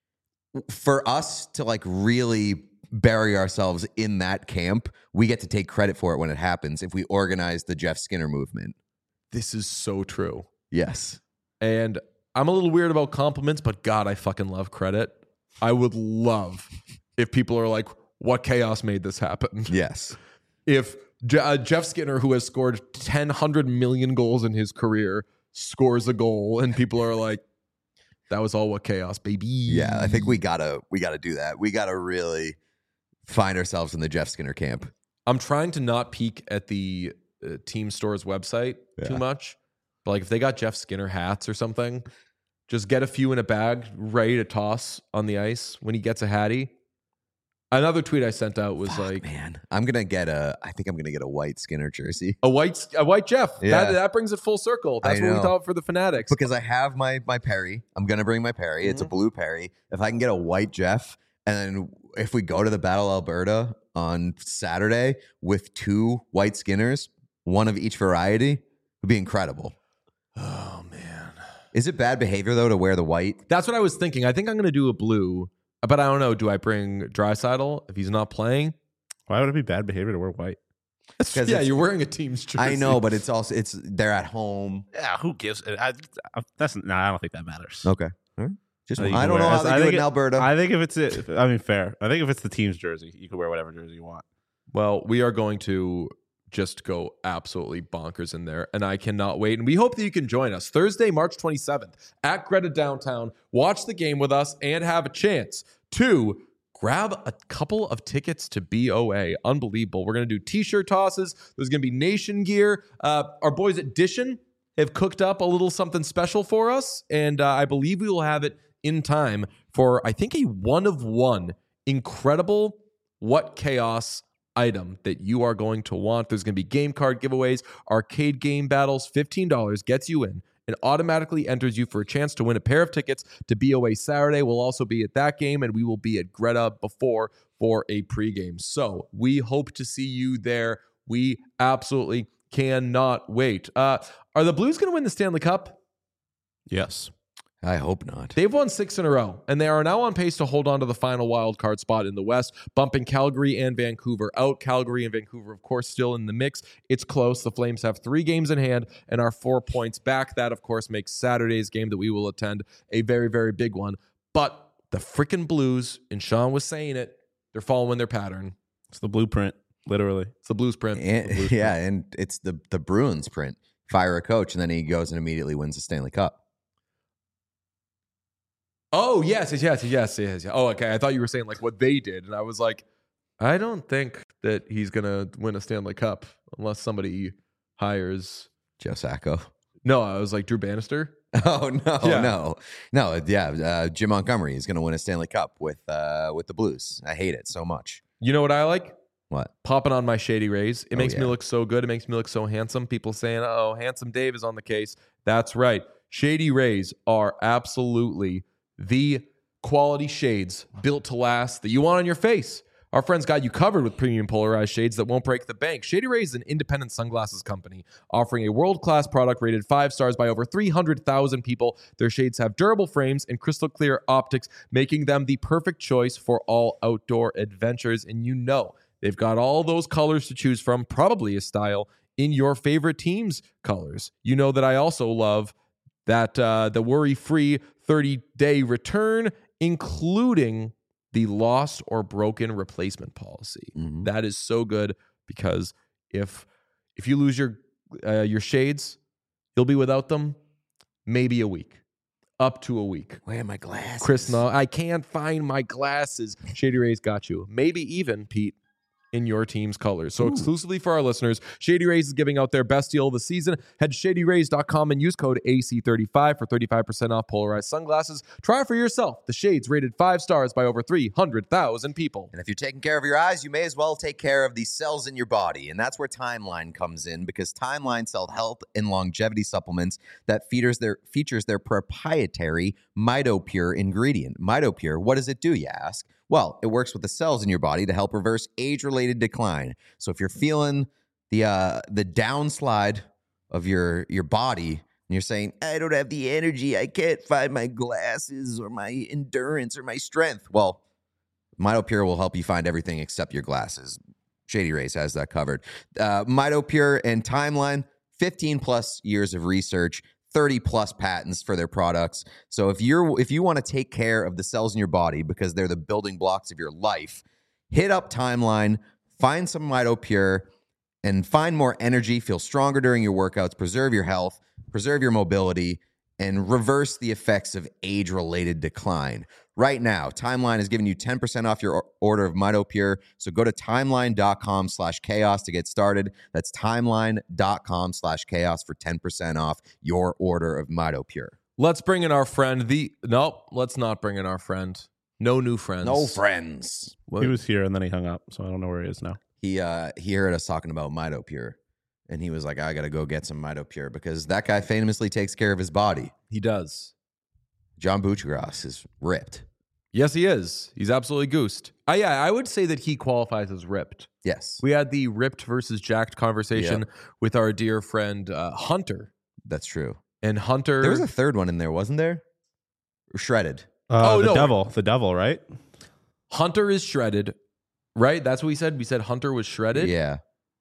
For us to like really bury ourselves in that camp, we get to take credit for it when it happens if we organize the Jeff Skinner movement. This is so true. Yes. And I'm a little weird about compliments, but God, I fucking love credit. I would love if people are like, what chaos made this happen? Yes. If Je- uh, Jeff Skinner, who has scored ten, one hundred million goals in his career, scores a goal and people are like, that was all what chaos, baby. Yeah, I think we gotta we gotta do that. We gotta really find ourselves in the Jeff Skinner camp. I'm trying to not peek at the uh, team store's website too Yeah. much. But like if they got Jeff Skinner hats or something, just get a few in a bag ready to toss on the ice when he gets a hattie. Another tweet I sent out was Fuck, like, man, I'm gonna get a. I think I'm gonna get a white Skinner jersey a white a white Jeff. Yeah. That, that brings it full circle. That's I what we know. thought for the Fanatics. because I have my my Perry. I'm gonna bring my Perry. It's a Mm-hmm. blue Perry. If I can get a white Jeff, and then if we go to the Battle Alberta on Saturday with two white Skinners, one of each variety, would be incredible. Oh man. Is it bad behavior though to wear the white? That's what I was thinking. I think I'm gonna do a blue, but I don't know. Do I bring Draisaitl if he's not playing? Why would it be bad behavior to wear white? 'Cause Yeah, it's- you're wearing a team's jersey. I know, but it's also it's they're at home. Yeah, who gives? I, I, that's no. I don't think that matters. Okay. All right. Just Uh, you I can don't know wear- how they I do think it in it- Alberta. I think if it's it, I mean, fair. I think if it's the team's jersey, you can wear whatever jersey you want. Well, we are going to just go absolutely bonkers in there, and I cannot wait. And we hope that you can join us Thursday, March twenty-seventh at Greta Downtown. Watch the game with us and have a chance to grab a couple of tickets to B O A. Unbelievable. We're going to do t-shirt tosses. There's going to be Nation gear. Uh, our boys at Dishin have cooked up a little something special for us, and uh, I believe we will have it in time for, I think, a one of one incredible What Chaos item that you are going to want. There's going to be game card giveaways, arcade game battles. fifteen dollars gets you in and automatically enters you for a chance to win a pair of tickets to B O A Saturday. We'll also be at that game, and we will be at Greta before for a pregame. So we hope to see you there. We absolutely cannot wait. Uh, are the Blues going to win the Stanley Cup? Yes. I hope not. They've won six in a row, and they are now on pace to hold on to the final wild card spot in the West, bumping Calgary and Vancouver out. Calgary and Vancouver, of course, still in the mix. It's close. The Flames have three games in hand and are four points back. That, of course, makes Saturday's game that we will attend a very, very big one. But the freaking Blues, and Sean was saying it, they're following their pattern. It's the blueprint, literally. It's the Blues print. And, The Blues yeah, print. and it's the the Bruins print. Fire a coach, and then he goes and immediately wins the Stanley Cup. Oh, yes, yes, yes, yes, yes. yes. Oh, okay. I thought you were saying like what they did. And I was like, I don't think that he's going to win a Stanley Cup unless somebody hires. Joe Sacco. No, I was like Drew Bannister. Oh no, Yeah. no, no! Yeah, uh, Jim Montgomery is going to win a Stanley Cup with uh, with the Blues. I hate it so much. You know what I like? What? Popping on my Shady Rays. It Oh, makes me yeah. look so good. It makes me look so handsome. People saying, oh, Handsome Dave is on the case. That's right. Shady Rays are absolutely the quality shades built to last that you want on your face. Our friends got you covered with premium polarized shades that won't break the bank. Shady Rays is an independent sunglasses company offering a world-class product rated five stars by over three hundred thousand people. Their shades have durable frames and crystal clear optics, making them the perfect choice for all outdoor adventures. And you know They've got all those colors to choose from, probably a style in your favorite team's colors. You know that I also love that uh, the worry-free thirty-day return, including the lost or broken replacement policy. Mhm. That is so good because if if you lose your uh, your shades, you'll be without them maybe a week, up to a week. Where are my glasses? Chris, no, I can't find my glasses. Shady Rays got you. Maybe even, Pete, in your team's colors. So Ooh. exclusively for our listeners, Shady Rays is giving out their best deal of the season. Head to shady rays dot com and use code A C thirty-five for thirty-five percent off polarized sunglasses. Try for yourself. The shades rated five stars by over three hundred thousand people. And if you're taking care of your eyes, you may as well take care of the cells in your body. And that's where Timeline comes in, because Timeline sells health and longevity supplements that features their, features their proprietary MitoPure ingredient. MitoPure, what does it do, you ask? Well, it works with the cells in your body to help reverse age-related decline. So if you're feeling the uh, the downslide of your your body, and you're saying, I don't have the energy, I can't find my glasses or my endurance or my strength. Well, MitoPure will help you find everything except your glasses. Shady Rays has that covered. Uh, MitoPure and Timeline, fifteen plus years of research, thirty plus patents for their products. So if you're if you want to take care of the cells in your body because they're the building blocks of your life, hit up Timeline, find some MitoPure, and find more energy, feel stronger during your workouts, preserve your health, preserve your mobility, and reverse the effects of age-related decline. Right now, Timeline is giving you ten percent off your order of MitoPure. So go to timeline.com slash chaos to get started. That's timeline.com slash chaos for ten percent off your order of MitoPure. Let's bring in our friend. The Nope, let's not bring in our friend. No new friends. No friends. What? He was here and then he hung up, so I don't know where he is now. He uh he heard us talking about MitoPure, and he was like, I gotta go get some MitoPure, because that guy famously takes care of his body. He does. John Buccigross is ripped. Yes, he is. He's absolutely goosed. Uh, yeah, I would say that he qualifies as ripped. Yes, We had the ripped versus jacked conversation Yep. with our dear friend uh, Hunter. that's true. And Hunter... There was a third one in there, wasn't there? Or shredded. Uh, Oh, the no. devil, the devil, right? Hunter is shredded, right? That's what we said. We said Hunter was shredded. Yeah.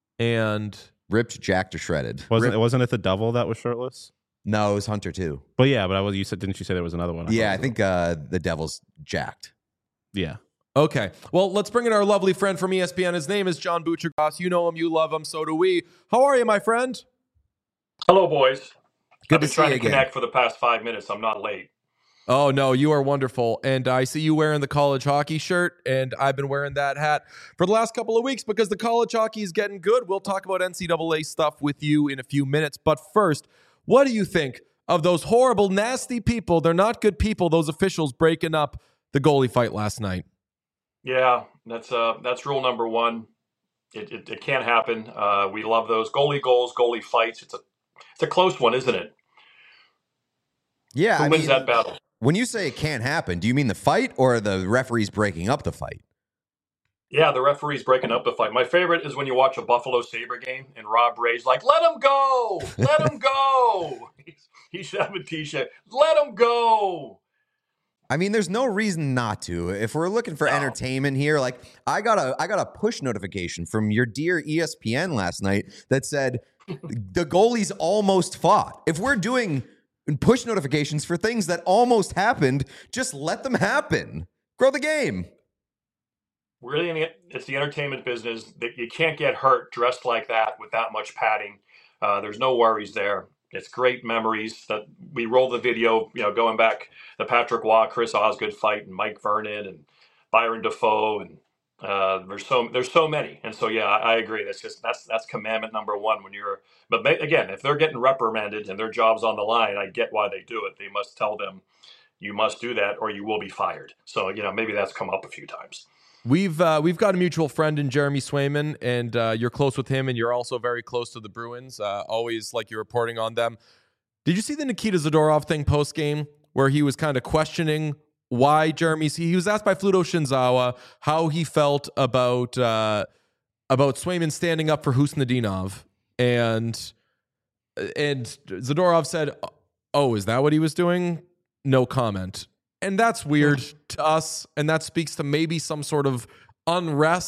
And Ripped, jacked, or shredded. Wasn't Rip- it? Wasn't it the devil that was shirtless? No, it was Hunter too. But yeah, but I was. You said, didn't you say there was another one? Yeah, thought I it was- think uh, the devil's jacked. Yeah. okay. Well, let's bring in our lovely friend from E S P N. His name is John Buccigross. You know him. You love him. So do we. How are you, my friend? Hello, boys. Good I've to been see trying you to again. connect for the past five minutes. I'm not late. Oh, no, you are wonderful. And I see you wearing the college hockey shirt, and I've been wearing that hat for the last couple of weeks because the college hockey is getting good. We'll talk about N C double A stuff with you in a few minutes. But first, what do you think of those horrible, nasty people? They're not good people, those officials breaking up the goalie fight last night. Yeah, that's uh, that's rule number one. It, it, it can't happen. Uh, we love those goalie goals, goalie fights. It's a it's a close one, isn't it? Yeah, Who I wins mean, that battle? when you say it can't happen, do you mean the fight or the referees breaking up the fight? Yeah, the referee's breaking up the fight. My favorite is when you watch a Buffalo Sabre game and Rob Ray's like, "Let him go, let him go." He's, he's shoving T-shirt. Let him go. I mean, there's no reason not to. If we're looking for No. entertainment here, like I got a I got a push notification from your dear E S P N last night that said the goalies almost fought. If we're doing push notifications for things that almost happened, just let them happen. Grow the game. Really, in the, it's the entertainment business. That you can't get hurt dressed like that with that much padding. Uh, there's no worries there. It's great memories that we roll the video, you know, going back the Patrick Waugh, Chris Osgood fight, and Mike Vernon and Byron Dafoe, and uh, there's so there's so many. And so yeah, I, I agree. That's just that's that's commandment number one when you're. But ma- again, if they're getting reprimanded and their job's on the line, I get why they do it. They must tell them you must do that or you will be fired. So you know maybe that's come up a few times. We've uh, we've got a mutual friend in Jeremy Swayman, and uh, you're close with him, and you're also very close to the Bruins. Uh, always like you're reporting on them. Did you see the Nikita Zadorov thing post game where he was kind of questioning why Jeremy? He was asked by Fluto Shinzawa how he felt about uh, about Swayman standing up for Husnudinov, and and Zadorov said, "Oh, is that what he was doing?" No comment. And that's weird to us, and that speaks to maybe some sort of unrest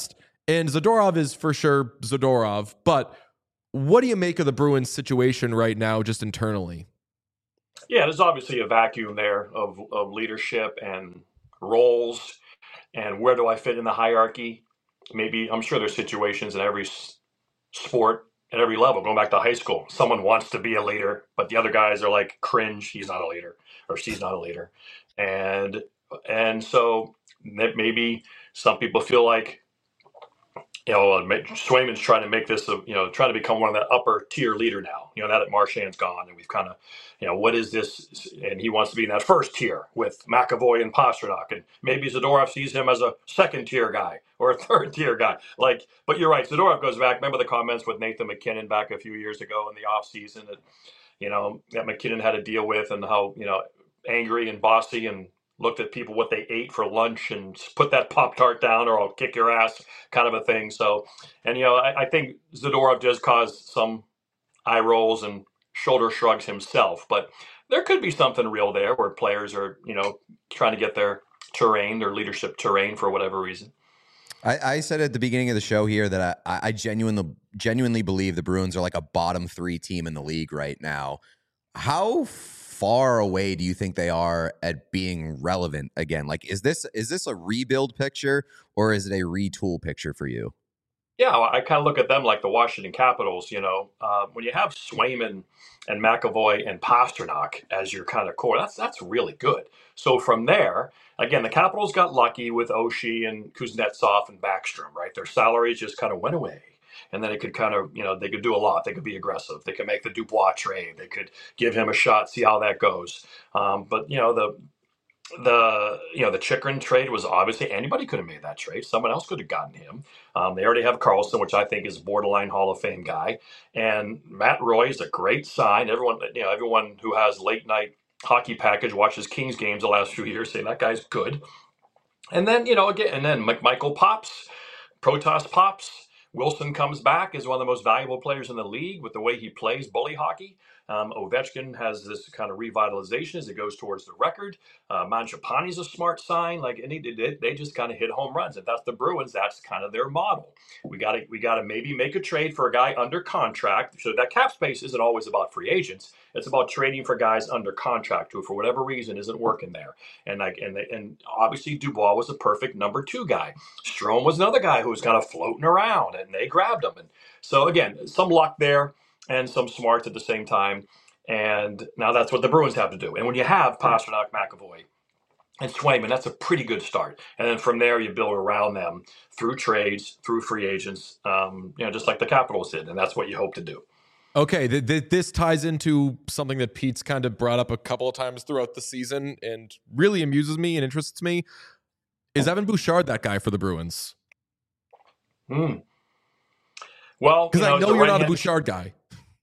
And Zadorov is for sure Zadorov, but what do you make of the Bruins situation right now, just internally? Yeah, there's obviously a vacuum there of, of leadership and roles, and where do I fit in the hierarchy? Maybe I'm sure there's situations in every s- sport at every level. Going back to high school, someone wants to be a leader, but the other guys are like cringe. He's not a leader, or she's not a leader, and and so that maybe some people feel like, you know, uh, ma- Swayman's trying to make this, a, you know, trying to become one of the upper tier leader now. You know, now that Marchand's gone, and we've kind of, you know, what is this? And he wants to be in that first tier with McAvoy and Pasternak, and maybe Zadorov sees him as a second tier guy or a third tier guy. Like, but you're right, Zadorov goes back. Remember the comments with Nathan McKinnon back a few years ago in the offseason that, you know, that McKinnon had to deal with, and how, you know, angry and bossy, and looked at people what they ate for lunch and put that Pop Tart down or I'll kick your ass kind of a thing. So, and, you know, I, I think Zadorov does cause some eye rolls and shoulder shrugs himself, but there could be something real there where players are, you know, trying to get their terrain, their leadership terrain for whatever reason. I, I said at the beginning of the show here that I, I genuinely genuinely believe the Bruins are like a bottom three team in the league right now. How far away do you think they are at being relevant again? Like, is this is this a rebuild picture or is it a retool picture for you? Yeah, well, I kind of look at them like the Washington Capitals. You know, uh, when you have Swayman and McAvoy and Pasternak as your kind of core, that's that's really good. So from there, again, the Capitals got lucky with Oshie and Kuznetsov and Backstrom, right? Their salaries just kind of went away. And then it could kind of, you know, they could do a lot. They could be aggressive. They could make the Dubois trade. They could give him a shot, see how that goes. Um, but, you know, the the you know the Chikrin trade was obviously anybody could have made that trade. Someone else could have gotten him. Um, they already have Carlson, which I think is a borderline Hall of Fame guy, and Matt Roy is a great sign. Everyone, you know, everyone who has late night hockey package watches Kings games the last few years, saying that guy's good. And then, you know, again, and then McMichael pops, Protas pops. Wilson comes back as one of the most valuable players in the league with the way he plays bully hockey. Um, Ovechkin has this kind of revitalization as it goes towards the record. Uh, Mangiapane's a smart sign. Like, and he did it. They just kind of hit home runs. If that's the Bruins, that's kind of their model. We got to we got to maybe make a trade for a guy under contract. So that cap space isn't always about free agents. It's about trading for guys under contract who, for whatever reason, isn't working there. And like, and and obviously Dubois was a perfect number two guy. Strome was another guy who was kind of floating around, and they grabbed him. And so again, some luck there and some smarts at the same time. And now that's what the Bruins have to do. And when you have Pasternak, McAvoy, and Swayman, that's a pretty good start. And then from there, you build around them through trades, through free agents, um, you know, just like the Capitals did. And that's what you hope to do. Okay, th- th- this ties into something that Pete's kind of brought up a couple of times throughout the season and really amuses me and interests me. Is Evan Bouchard that guy for the Bruins? Hmm. Well, because you know, I know he's a you're not a right-handed- Bouchard guy.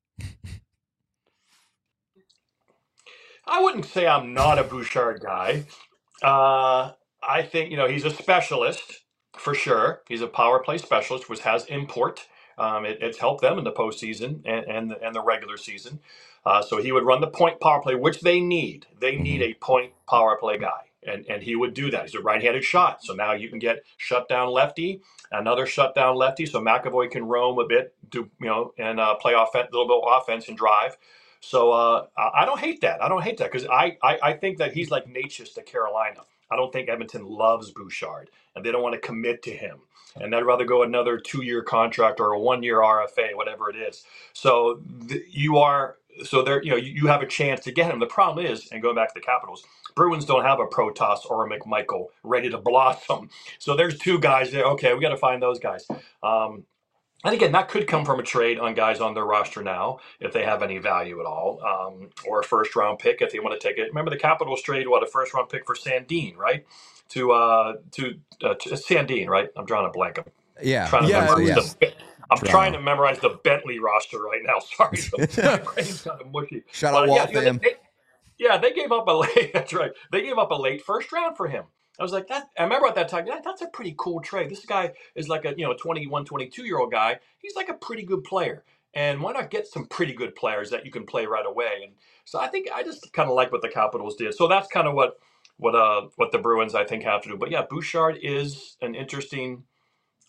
I wouldn't say I'm not a Bouchard guy. Uh, I think, you know, he's a specialist for sure. He's a power play specialist, which has import. Um, it, it's helped them in the postseason and and the, and the regular season. Uh, so he would run the point power play, which they need. They need a point power play guy, and and he would do that. He's a right-handed shot, so now you can get shutdown lefty, another shutdown lefty, so McAvoy can roam a bit, do you know, and uh, play offense, a little bit of offense and drive. So uh, I I don't hate that. I don't hate that because I, I I think that he's like Natchez to Carolina. I don't think Edmonton loves Bouchard, and they don't want to commit to him. And they'd rather go another two-year contract or a one-year R F A, whatever it is. So th- you are so there. You know, you, you have a chance to get him. The problem is, and going back to the Capitals, Bruins don't have a Protas or a McMichael ready to blossom. So there's two guys there. Okay, we got to find those guys. Um, and again, that could come from a trade on guys on their roster now, if they have any value at all, um, or a first-round pick if they want to take it. Remember, the Capitals traded what a first-round pick for Sandin, right? To uh, to, uh, to Sandin, right? I'm drawing a blank. I'm Yeah. trying to Yeah, memorize it was- the. I'm Toronto. trying to memorize the Bentley roster right now. Sorry, my brain's kind of mushy. Shout But, out yeah, Walt you know, fam. they- they- yeah, they gave up a late. That's right. They gave up a late first round for him. I was like, that. I remember at that time, that, that's a pretty cool trade. This guy is like a you know twenty-one, twenty-two year old guy. He's like a pretty good player. And why not get some pretty good players that you can play right away? And so I think I just kind of like what the Capitals did. So that's kind of what what uh what the Bruins I think have to do. But yeah, Bouchard is an interesting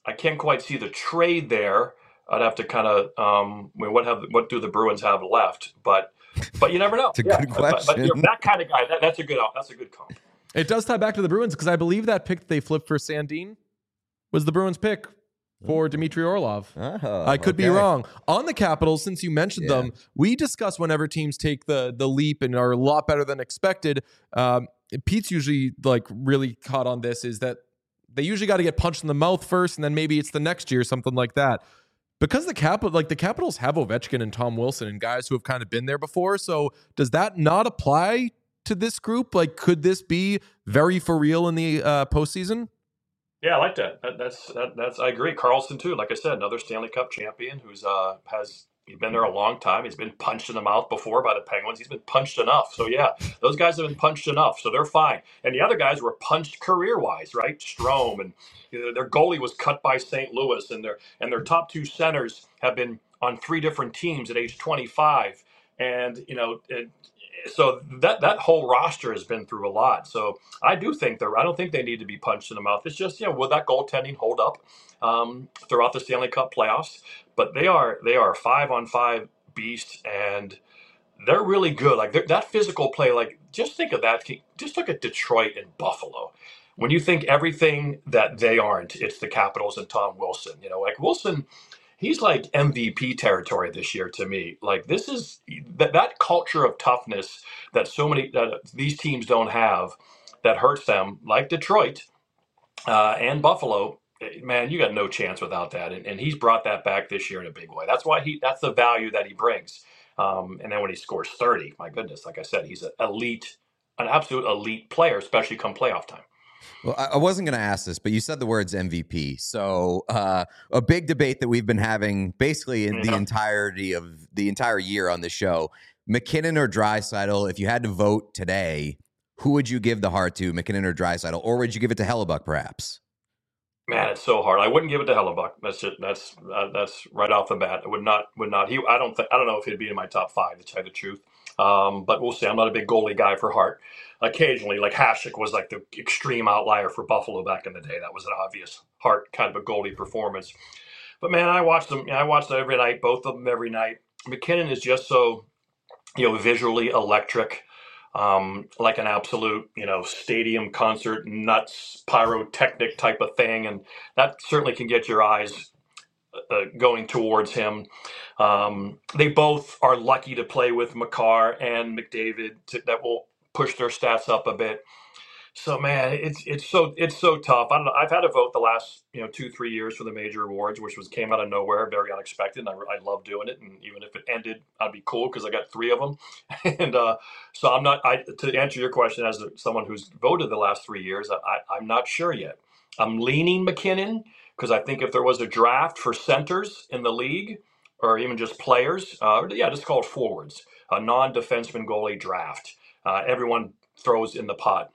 I can't quite see the trade there. I'd have to kind of, um, I mean, what have what do the Bruins have left? But but you never know. It's a yeah, good but, but, question. you know, that kind of guy, that, that's a good that's a good comp. It does tie back to the Bruins because I believe that pick that they flipped for Sandin was the Bruins pick for Dmitry Orlov. Oh, I could be okay. wrong. On the Capitals, since you mentioned Yeah. them, we discuss whenever teams take the the leap and are a lot better than expected. Um, Pete's usually like really caught on this is that they usually got to get punched in the mouth first, and then maybe it's the next year, something like that. Because the Capital, like the Capitals have Ovechkin and Tom Wilson and guys who have kind of been there before. So does that not apply to this group? Like, could this be very for real in the uh, postseason? Yeah, I like that. that that's that, that's I agree. Carlson too. Like I said, another Stanley Cup champion who's uh has he's been there a long time. He's been punched in the mouth before by the Penguins. He's been punched enough. So yeah, those guys have been punched enough. So they're fine. And the other guys were punched career wise, right? Strome and you know, their goalie was cut by Saint Louis, and their and their top two centers have been on three different teams at age twenty-five. And you know. It, So that that whole roster has been through a lot. So I do think they're. I don't think they need to be punched in the mouth. It's just, you know, will that goaltending hold up um, throughout the Stanley Cup playoffs? But they are they are five on five beasts, and they're really good. Like they're- that physical play. Like just think of that. Just look at Detroit and Buffalo. When you think everything that they aren't, it's the Capitals and Tom Wilson. You know, like Wilson. He's like M V P territory this year to me. Like this is that that culture of toughness that so many that these teams don't have, that hurts them. Like Detroit uh, and Buffalo, man, you got no chance without that. And, and he's brought that back this year in a big way. That's why he. That's the value that he brings. Um, and then when he scores thirty, my goodness, like I said, he's an elite, an absolute elite player, especially come playoff time. Well, I I wasn't going to ask this, but you said the words M V P. So uh, a big debate that we've been having basically in the Yeah. entirety of the entire year on the show, McKinnon or Draisaitl, if you had to vote today, who would you give the heart to, McKinnon or Draisaitl? Or would you give it to Hellebuck, perhaps? Man, it's so hard. I wouldn't give it to Hellebuck. That's just that's uh, that's right off the bat. I would not would not. He I don't think I don't know if he'd be in my top five to tell you the truth. Um, but we'll see. I'm not a big goalie guy for Hart. Occasionally, like Hasek was like the extreme outlier for Buffalo back in the day. That was an obvious Hart kind of a goalie performance. But man, I watched them. I watched them every night, both of them every night. McKinnon is just so, you know, visually electric, um, like an absolute, you know, stadium concert nuts pyrotechnic type of thing, and that certainly can get your eyes uh, going towards him. Um, they both are lucky to play with Makar and McDavid to, that will push their stats up a bit. So man, it's it's so it's so tough. I don't know. I've had a vote the last you know two three years for the major awards, which was came out of nowhere, very unexpected. And I, I love doing it, and even if it ended, I'd be cool because I got three of them. And uh, so I'm not. I to answer your question as someone who's voted the last three years, I, I'm not sure yet. I'm leaning McKinnon because I think if there was a draft for centers in the league, or even just players, uh, yeah, just call it forwards, a non-defenseman goalie draft, uh, everyone throws in the pot.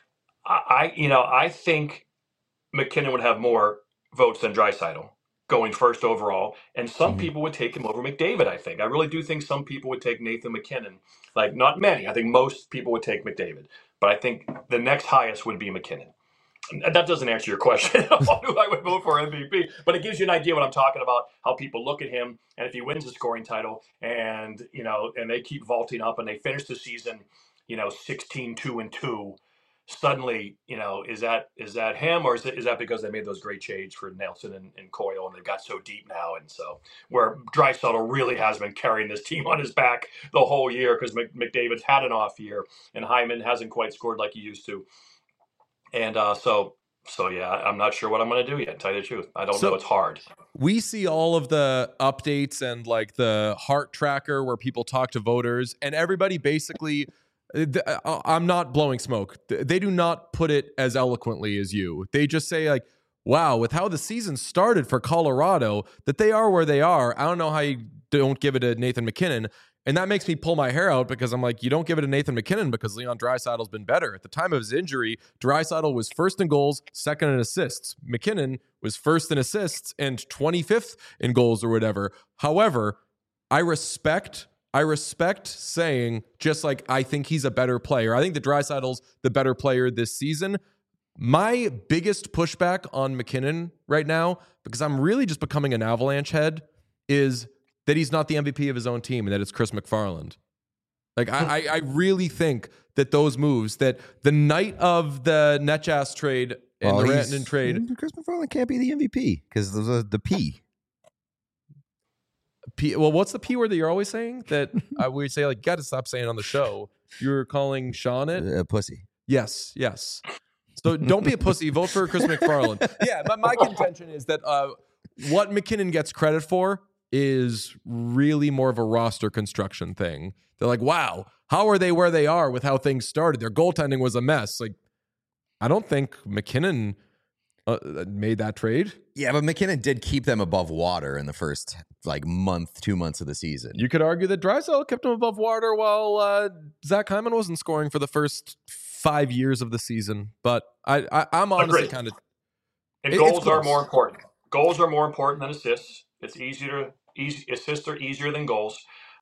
I, you know, I think McKinnon would have more votes than Draisaitl going first overall, and some Mhm. people would take him over McDavid. I think I really do think some people would take Nathan McKinnon. Like not many. I think most people would take McDavid, but I think the next highest would be McKinnon. And that doesn't answer your question on who I would vote for M V P, but it gives you an idea what I'm talking about. How people look at him, and if he wins the scoring title, and you know, and they keep vaulting up, and they finish the season, you know, sixteen two and two. Suddenly, you know, is that is that him, or is, it, is that because they made those great trades for Nelson and, and Coyle, and they got so deep now, and so where Draisaitl really has been carrying this team on his back the whole year because McDavid's had an off year, and Hyman hasn't quite scored like he used to, and uh, so so yeah, I'm not sure what I'm going to do yet. Tell you the truth, I don't So- know. It's hard. We see all of the updates and like the heart tracker where people talk to voters, and everybody basically. th- I- I'm not blowing smoke. Th- They do not put it as eloquently as you. They just say like, "Wow, with how the season started for Colorado, that they are where they are." I don't know how you don't give it to Nathan McKinnon, and that makes me pull my hair out because I'm like, you don't give it to Nathan McKinnon because Leon Draisaitl's been better. At the time of his injury, Draisaitl was first in goals, second in assists. McKinnon was first in assists and twenty-fifth in goals or whatever. However, I respect. I respect saying just like I think he's a better player. I think the Draisaitl's the better player this season. My biggest pushback on McKinnon right now, because I'm really just becoming an Avalanche head, is that he's not the M V P of his own team and that it's Chris McFarland. Like, I, I, I really think that those moves, that the night of the Netjas trade and Well, the he's- Rantanen trade, Chris McFarland can't be the M V P because there's a, the P. P, well, what's the P word that you're always saying that I would say, like, you got to stop saying on the show? You're calling Sean it? Uh, pussy. Yes, yes. So don't be a pussy. Vote for Chris McFarland. Yeah, my, my contention is that uh, what McKinnon gets credit for is really more of a roster construction thing. They're like, wow, how are they where they are with how things started? Their goaltending was a mess. Like, I don't think McKinnon uh, made that trade. Yeah, but McKinnon did keep them above water in the first like month, two months of the season. You could argue that Drysdale kept them above water while uh, Zach Hyman wasn't scoring for the first five years of the season. But I, I, I'm honestly Agreed. kind of... And It- goals it's are close. more important. Goals are more important than assists. It's easier. Easy assists are easier than goals.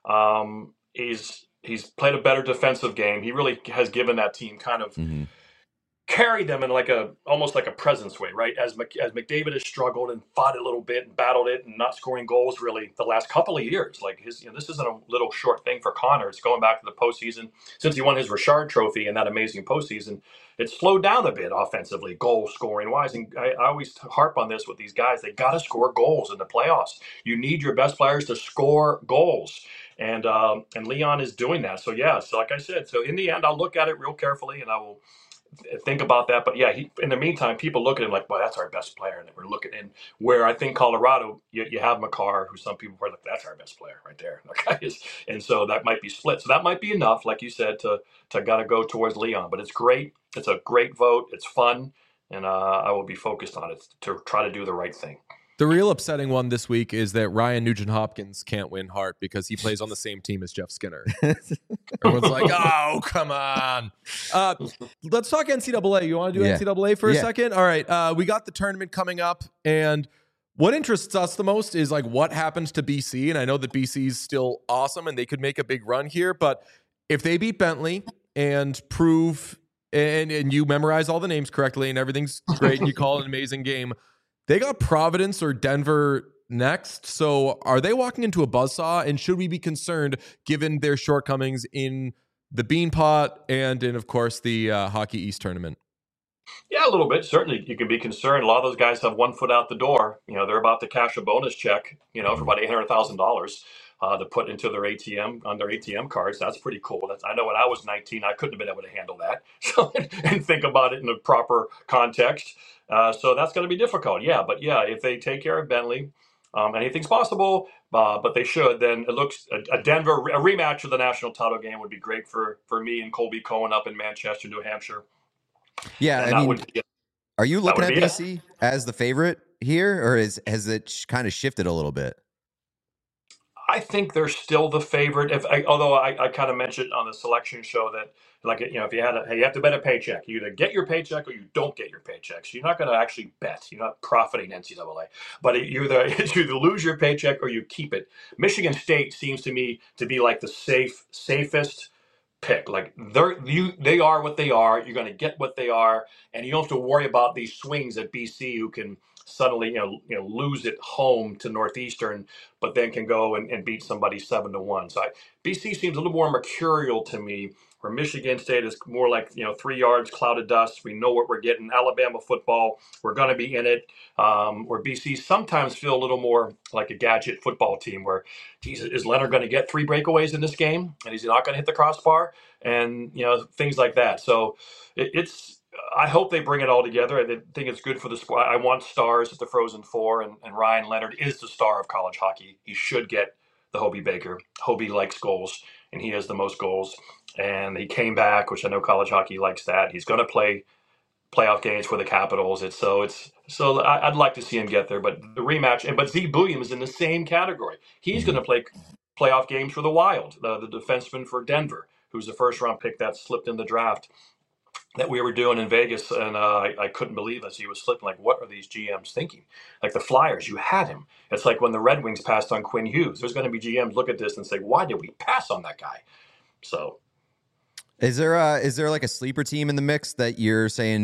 Um, he's he's played a better defensive game. He really has given that team kind of Mm-hmm. carried them in like a almost like a presence way, right? As Mc, as McDavid has struggled and fought it a little bit and battled it and not scoring goals really the last couple of years. Like his, you know, this isn't a little short thing for Connor. It's going back to the postseason since he won his Richard Trophy in that amazing postseason. It's slowed down a bit offensively, goal scoring wise. And I, I always harp on this with these guys. They got to score goals in the playoffs. You need your best players to score goals. And um, and Leon is doing that. So, yeah, so like I said, so in the end, I'll look at it real carefully and I will think about that. But yeah, he, in the meantime, people look at him like, well, that's our best player. And we're looking in where I think Colorado, you, you have Makar, who some people are like, that's our best player right there. That guy is, and so that might be split. So that might be enough, like you said, to to gotta go towards Leon. But it's great. It's a great vote. It's fun. And uh, I will be focused on it to try to do the right thing. The real upsetting one this week is that Ryan Nugent-Hopkins can't win Hart because he plays on the same team as Jeff Skinner. Everyone's like, oh, come on. Uh, let's talk N C double A. You want to do Yeah. N C double A for a Yeah. second? All right. Uh, we got the tournament coming up, and what interests us the most is like what happens to B C. And I know that B C's still awesome and they could make a big run here, but if they beat Bentley and prove and, and you memorize all the names correctly and everything's great and you call it an amazing game, they got Providence or Denver next. So are they walking into a buzzsaw? And should we be concerned given their shortcomings in the Beanpot and in, of course, the uh, Hockey East tournament? Yeah, a little bit. Certainly, you can be concerned. A lot of those guys have one foot out the door. You know, they're about to cash a bonus check, you know, for about eight hundred thousand dollars uh, to put into their A T M, on their A T M cards. That's pretty cool. That's, I know when I was nineteen, I couldn't have been able to handle that. So, and think about it in the proper context. Uh, so that's going to be difficult. Yeah, but yeah, if they take care of Bentley, um, anything's possible, uh, but they should. Then it looks a, a Denver a rematch of the national title game would be great for for me and Colby Cohen up in Manchester, New Hampshire. Yeah, And I that mean, would be, are you looking would at be B it. C as the favorite here, or is has it sh- kind of shifted a little bit? I think they're still the favorite. If I, although I, I kind of mentioned on the selection show that, like, you know, if you had a, hey, you have to bet a paycheck. You either get your paycheck or you don't get your paycheck. So you're not going to actually bet. You're not profiting N C double A. But you either you either lose your paycheck or you keep it. Michigan State seems to me to be like the safe, safest pick. Like they're you, they are what they are. You're going to get what they are, and you don't have to worry about these swings at B C who can suddenly, you know, you know, lose it home to Northeastern, but then can go and, and beat somebody seven to one. So I, B C seems a little more mercurial to me. Where Michigan State is more like, you know, three yards, cloud of dust. We know what we're getting. Alabama football, we're going to be in it. Um, where B C sometimes feel a little more like a gadget football team where, geez, is Leonard going to get three breakaways in this game? And he's not going to hit the crossbar? And, you know, things like that. So it, it's, I hope they bring it all together. I think it's good for the sport. I want stars at the Frozen Four, and, and Ryan Leonard is the star of college hockey. He should get the Hobie Baker. Hobie likes goals, and he has the most goals. And he came back, which I know college hockey likes that. He's going to play playoff games for the Capitals. It's so it's so I, I'd like to see him get there. But the rematch, and but Z Bulliam is in the same category. He's going to play playoff games for the Wild, the, the defenseman for Denver, who's the first round pick that slipped in the draft that we were doing in Vegas, and uh, I, I couldn't believe as he was slipping. Like, what are these G Ms thinking? Like the Flyers, you had him. It's like when the Red Wings passed on Quinn Hughes. There's going to be G Ms look at this and say, why did we pass on that guy? So, Is there a, is there like a sleeper team in the mix that you're saying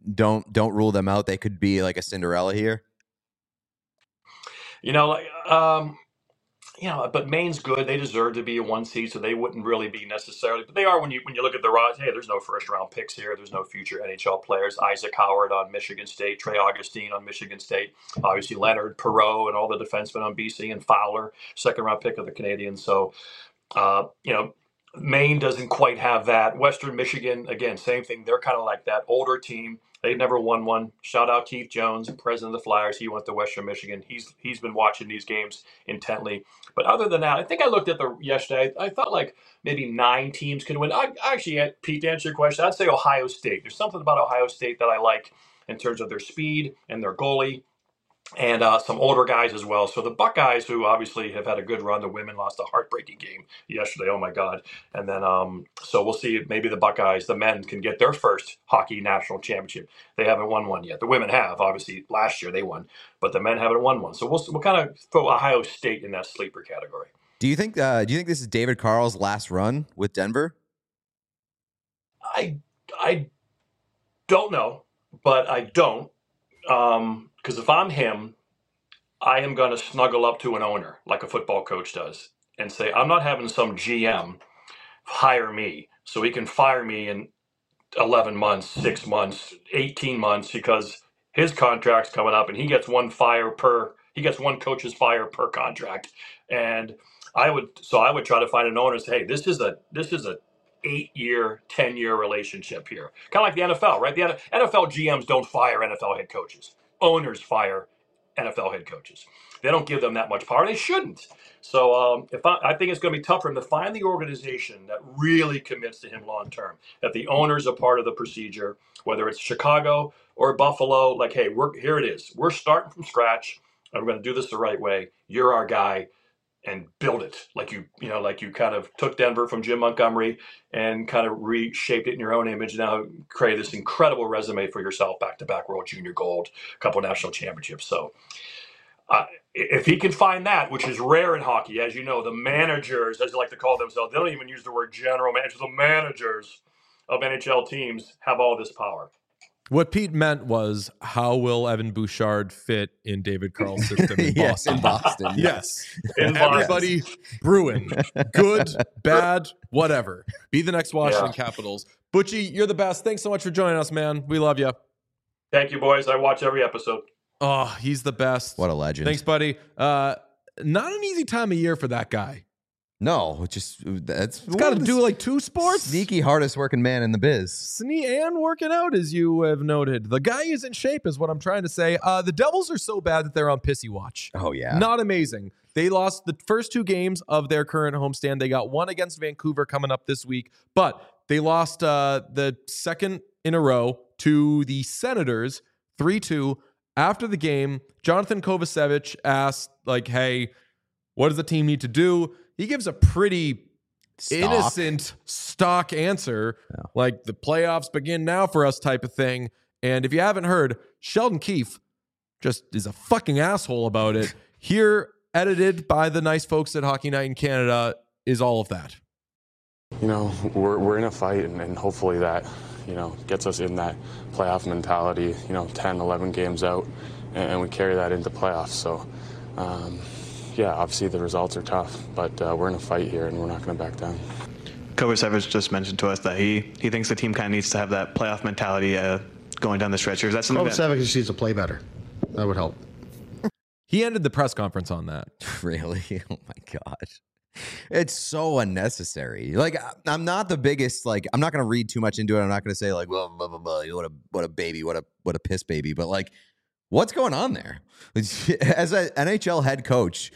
don't don't rule them out. They could be like a Cinderella here. You know, like um, you know, but Maine's good. They deserve to be a one seed, so they wouldn't really be necessarily. But they are when you when you look at the roster. Hey, there's no first round picks here. There's no future N H L players. Isaac Howard on Michigan State, Trey Augustine on Michigan State, obviously Leonard, Perreault, and all the defensemen on B C, and Fowler, second round pick of the Canadians. So, uh, you know. Maine doesn't quite have that. Western Michigan, again, same thing. They're kind of like that older team. They've never won one. Shout out Keith Jones, president of the Flyers. He went to Western Michigan. He's he's been watching these games intently. But other than that, I think I looked at the yesterday. I thought like maybe nine teams could win. I actually, Pete, to answer your question, I'd say Ohio State. There's something about Ohio State that I like in terms of their speed and their goalie. And uh, some older guys as well. So the Buckeyes, who obviously have had a good run, the women lost a heartbreaking game yesterday. Oh my God! And then, um, so we'll see if maybe the Buckeyes, the men, can get their first hockey national championship. They haven't won one yet. The women have, obviously, last year they won, but the men haven't won one. So we'll we'll kind of throw Ohio State in that sleeper category. Do you think? Uh, do you think this is David Carl's last run with Denver? I I don't know, but I don't. Um, Because if I'm him, I am going to snuggle up to an owner like a football coach does and say, I'm not having some G M hire me so he can fire me in eleven months, six months, eighteen months because his contract's coming up and he gets one fire per, he gets one coach's fire per contract. And I would, so I would try to find an owner and say, hey, this is a, this is a eight-year, ten-year relationship here. Kind of like the N F L, right? The N F L G Ms don't fire N F L head coaches. Owners fire N F L head coaches. They don't give them that much power. They shouldn't. So um, if I, I think it's going to be tough for him to find the organization that really commits to him long term, that the owners are part of the procedure, whether it's Chicago or Buffalo. Like, hey, we're here it is. We're starting from scratch, and we're going to do this the right way. You're our guy, and build it like you, you know, like you kind of took Denver from Jim Montgomery and kind of reshaped it in your own image. Now create this incredible resume for yourself, back-to-back World Junior Gold, a couple national championships. So uh, if he can find that, which is rare in hockey, as you know, the managers, as they like to call themselves, they don't even use the word general managers. The managers of N H L teams have all this power. What Pete meant was, how will Evan Bouchard fit in David Carl's system in Yes, Boston? in Boston. Yes. In Everybody Bruin. Good, bad, whatever. Be the next Washington Yeah. Capitals. Butchie, you're the best. Thanks so much for joining us, man. We love you. Thank you, boys. I watch every episode. Oh, he's the best. What a legend. Thanks, buddy. Uh, not an easy time of year for that guy. No, just that's He's got to do like two sports. Sneaky hardest working man in the biz. Sne- and working out, as you have noted. The guy is in shape, is what I'm trying to say. Uh, the Devils are so bad that they're on pissy watch. Oh yeah. Not amazing. They lost the first two games of their current homestand. They got one against Vancouver coming up this week, but they lost uh, the second in a row to the Senators three two. After the game, Jonathan Kovacevic asked, like, hey, what does the team need to do? He gives a pretty Stock. innocent stock answer, Yeah. like the playoffs begin now for us type of thing. And if you haven't heard, Sheldon Keefe just is a fucking asshole about it. Here, edited by the nice folks at Hockey Night in Canada, is all of that. You know, we're, we're in a fight, and, and hopefully that, you know, gets us in that playoff mentality, you know, ten, eleven games out, and, and we carry that into playoffs. So, um, yeah, obviously the results are tough, but uh, we're in a fight here, and we're not going to back down. Kovacevic just mentioned to us that he, he thinks the team kind of needs to have that playoff mentality uh, going down the stretch. Or is that something that... Kovacevic just needs to play better. That would help. He ended the press conference on that. Really? Oh my gosh. It's so unnecessary. Like, I'm not the biggest, like, I'm not going to read too much into it. I'm not going to say, like, blah, blah, blah, blah, what a, what a baby, what a, what a piss baby. But, like, what's going on there? As an N H L head coach,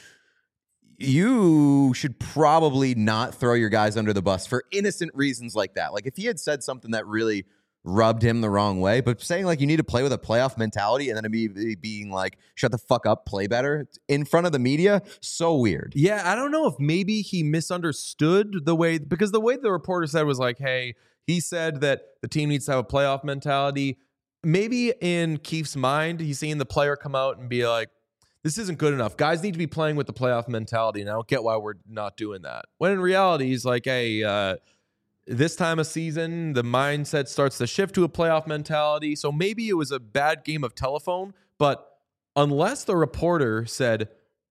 you should probably not throw your guys under the bus for innocent reasons like that. Like, if he had said something that really rubbed him the wrong way, but saying like you need to play with a playoff mentality and then be, be being like, shut the fuck up, play better in front of the media, so weird. Yeah, I don't know if maybe he misunderstood the way, because the way the reporter said was like, hey, he said that the team needs to have a playoff mentality. Maybe in Keefe's mind, he's seeing the player come out and be like, this isn't good enough. Guys need to be playing with the playoff mentality, and I don't get why we're not doing that. When in reality, he's like, hey, uh, this time of season, the mindset starts to shift to a playoff mentality. So maybe it was a bad game of telephone, but unless the reporter said,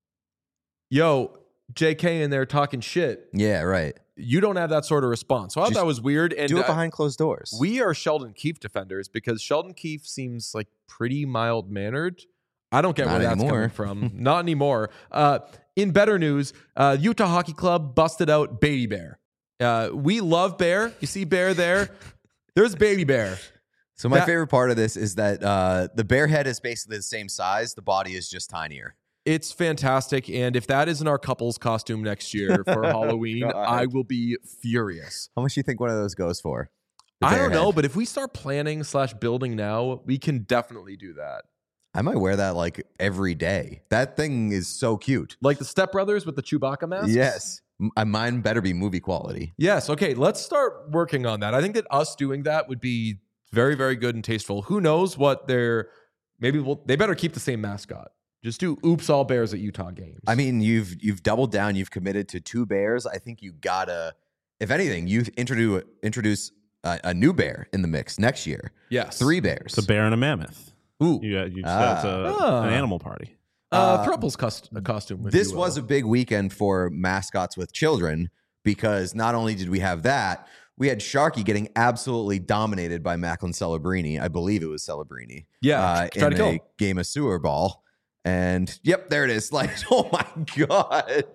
yo, J K in there talking shit. Yeah, right. You don't have that sort of response. So I thought Just that was weird. And do it uh, behind closed doors. We are Sheldon Keefe defenders because Sheldon Keefe seems like pretty mild-mannered. I don't get Not where that's anymore. coming from. Not anymore. Uh, in better news, uh, Utah Hockey Club busted out Baby Bear. Uh, we love Bear. You see Bear there? There's Baby Bear. So my That- favorite part of this is that uh, the bear head is basically the same size. The body is just tinier. It's fantastic. And if that isn't our couple's costume next year for Halloween, God. I will be furious. How much do you think one of those goes for? The I bear don't know, head. but if we start planning slash building now, we can definitely do that. I might wear that like every day. That thing is so cute. Like the Step Brothers with the Chewbacca masks? Yes. M- uh, Mine better be movie quality. Yes. Okay. Let's start working on that. I think that us doing that would be very, very good and tasteful. Who knows what they're maybe we'll, they better keep the same mascot. Just do oops all bears at Utah games. I mean, you've you've doubled down. You've committed to two bears. I think you gotta, if anything, you introduce introduce a, a new bear in the mix next year. yes. Three bears. It's a bear and a mammoth. Ooh. You got you just Ah. got a, Ah. an animal party. Uh, Uh, Thruple's cost- a costume. if This you will. was a big weekend for mascots with children because not only did we have that, we had Sharky getting absolutely dominated by Macklin Celebrini. I believe it was Celebrini. Yeah, uh, tried in to kill a him. game of sewer ball. And yep, there it is. Like, oh my God.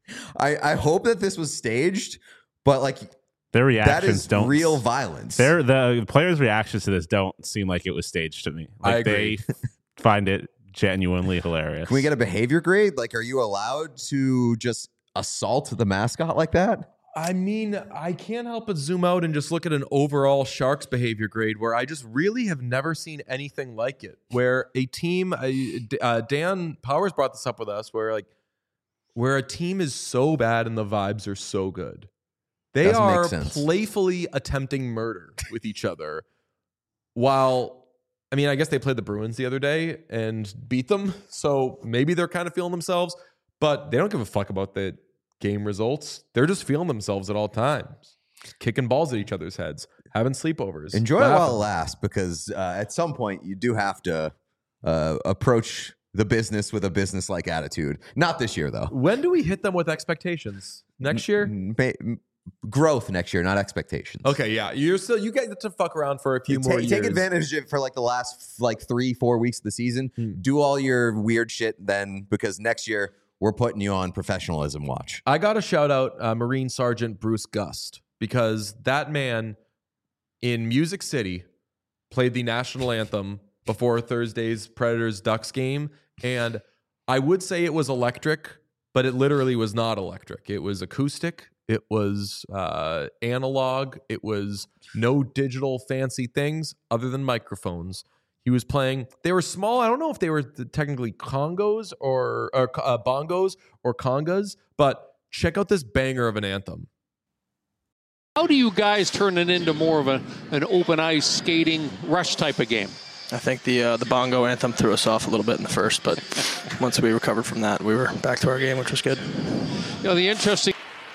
I, I hope that this was staged, but like Their that reactions is don't real violence. Their the players' reactions to this don't seem like it was staged to me. Like I agree. they find it genuinely hilarious. Can we get a behavior grade? Like, are you allowed to just assault the mascot like that? I mean, I can't help but zoom out and just look at an overall Sharks behavior grade where I just really have never seen anything like it. Where a team, uh, Dan Powers brought this up with us, where like, where a team is so bad and the vibes are so good. They Doesn't make are sense. playfully attempting murder with each other. While, I mean, I guess they played the Bruins the other day and beat them. So maybe they're kind of feeling themselves, but they don't give a fuck about the game results. They're just feeling themselves at all times, kicking balls at each other's heads, having sleepovers. Enjoy it while it laughing. lasts, because uh, at some point you do have to uh, approach the business with a business-like attitude. Not this year, though. When do we hit them with expectations? Next year? Ma- m- growth next year, not expectations. Okay, yeah. You're still you get to fuck around for a few Ta- more take years. advantage of it for like the last like three, four weeks of the season. Hmm. Do all your weird shit then, because next year we're putting you on professionalism watch. I got to shout out uh, Marine Sergeant Bruce Gust, because that man in Music City played the national anthem before Thursday's Predators Ducks game. And I would say it was electric, but it literally was not electric. It was acoustic. It was uh, analog. It was no digital fancy things other than microphones. He was playing. They were small. I don't know if they were technically congos or, or uh, bongos or congas, but check out this banger of an anthem. How do you guys turn it into more of a, an open ice skating rush type of game? I think the uh, the bongo anthem threw us off a little bit in the first, but once we recovered from that, we were back to our game, which was good. You know, the interesting.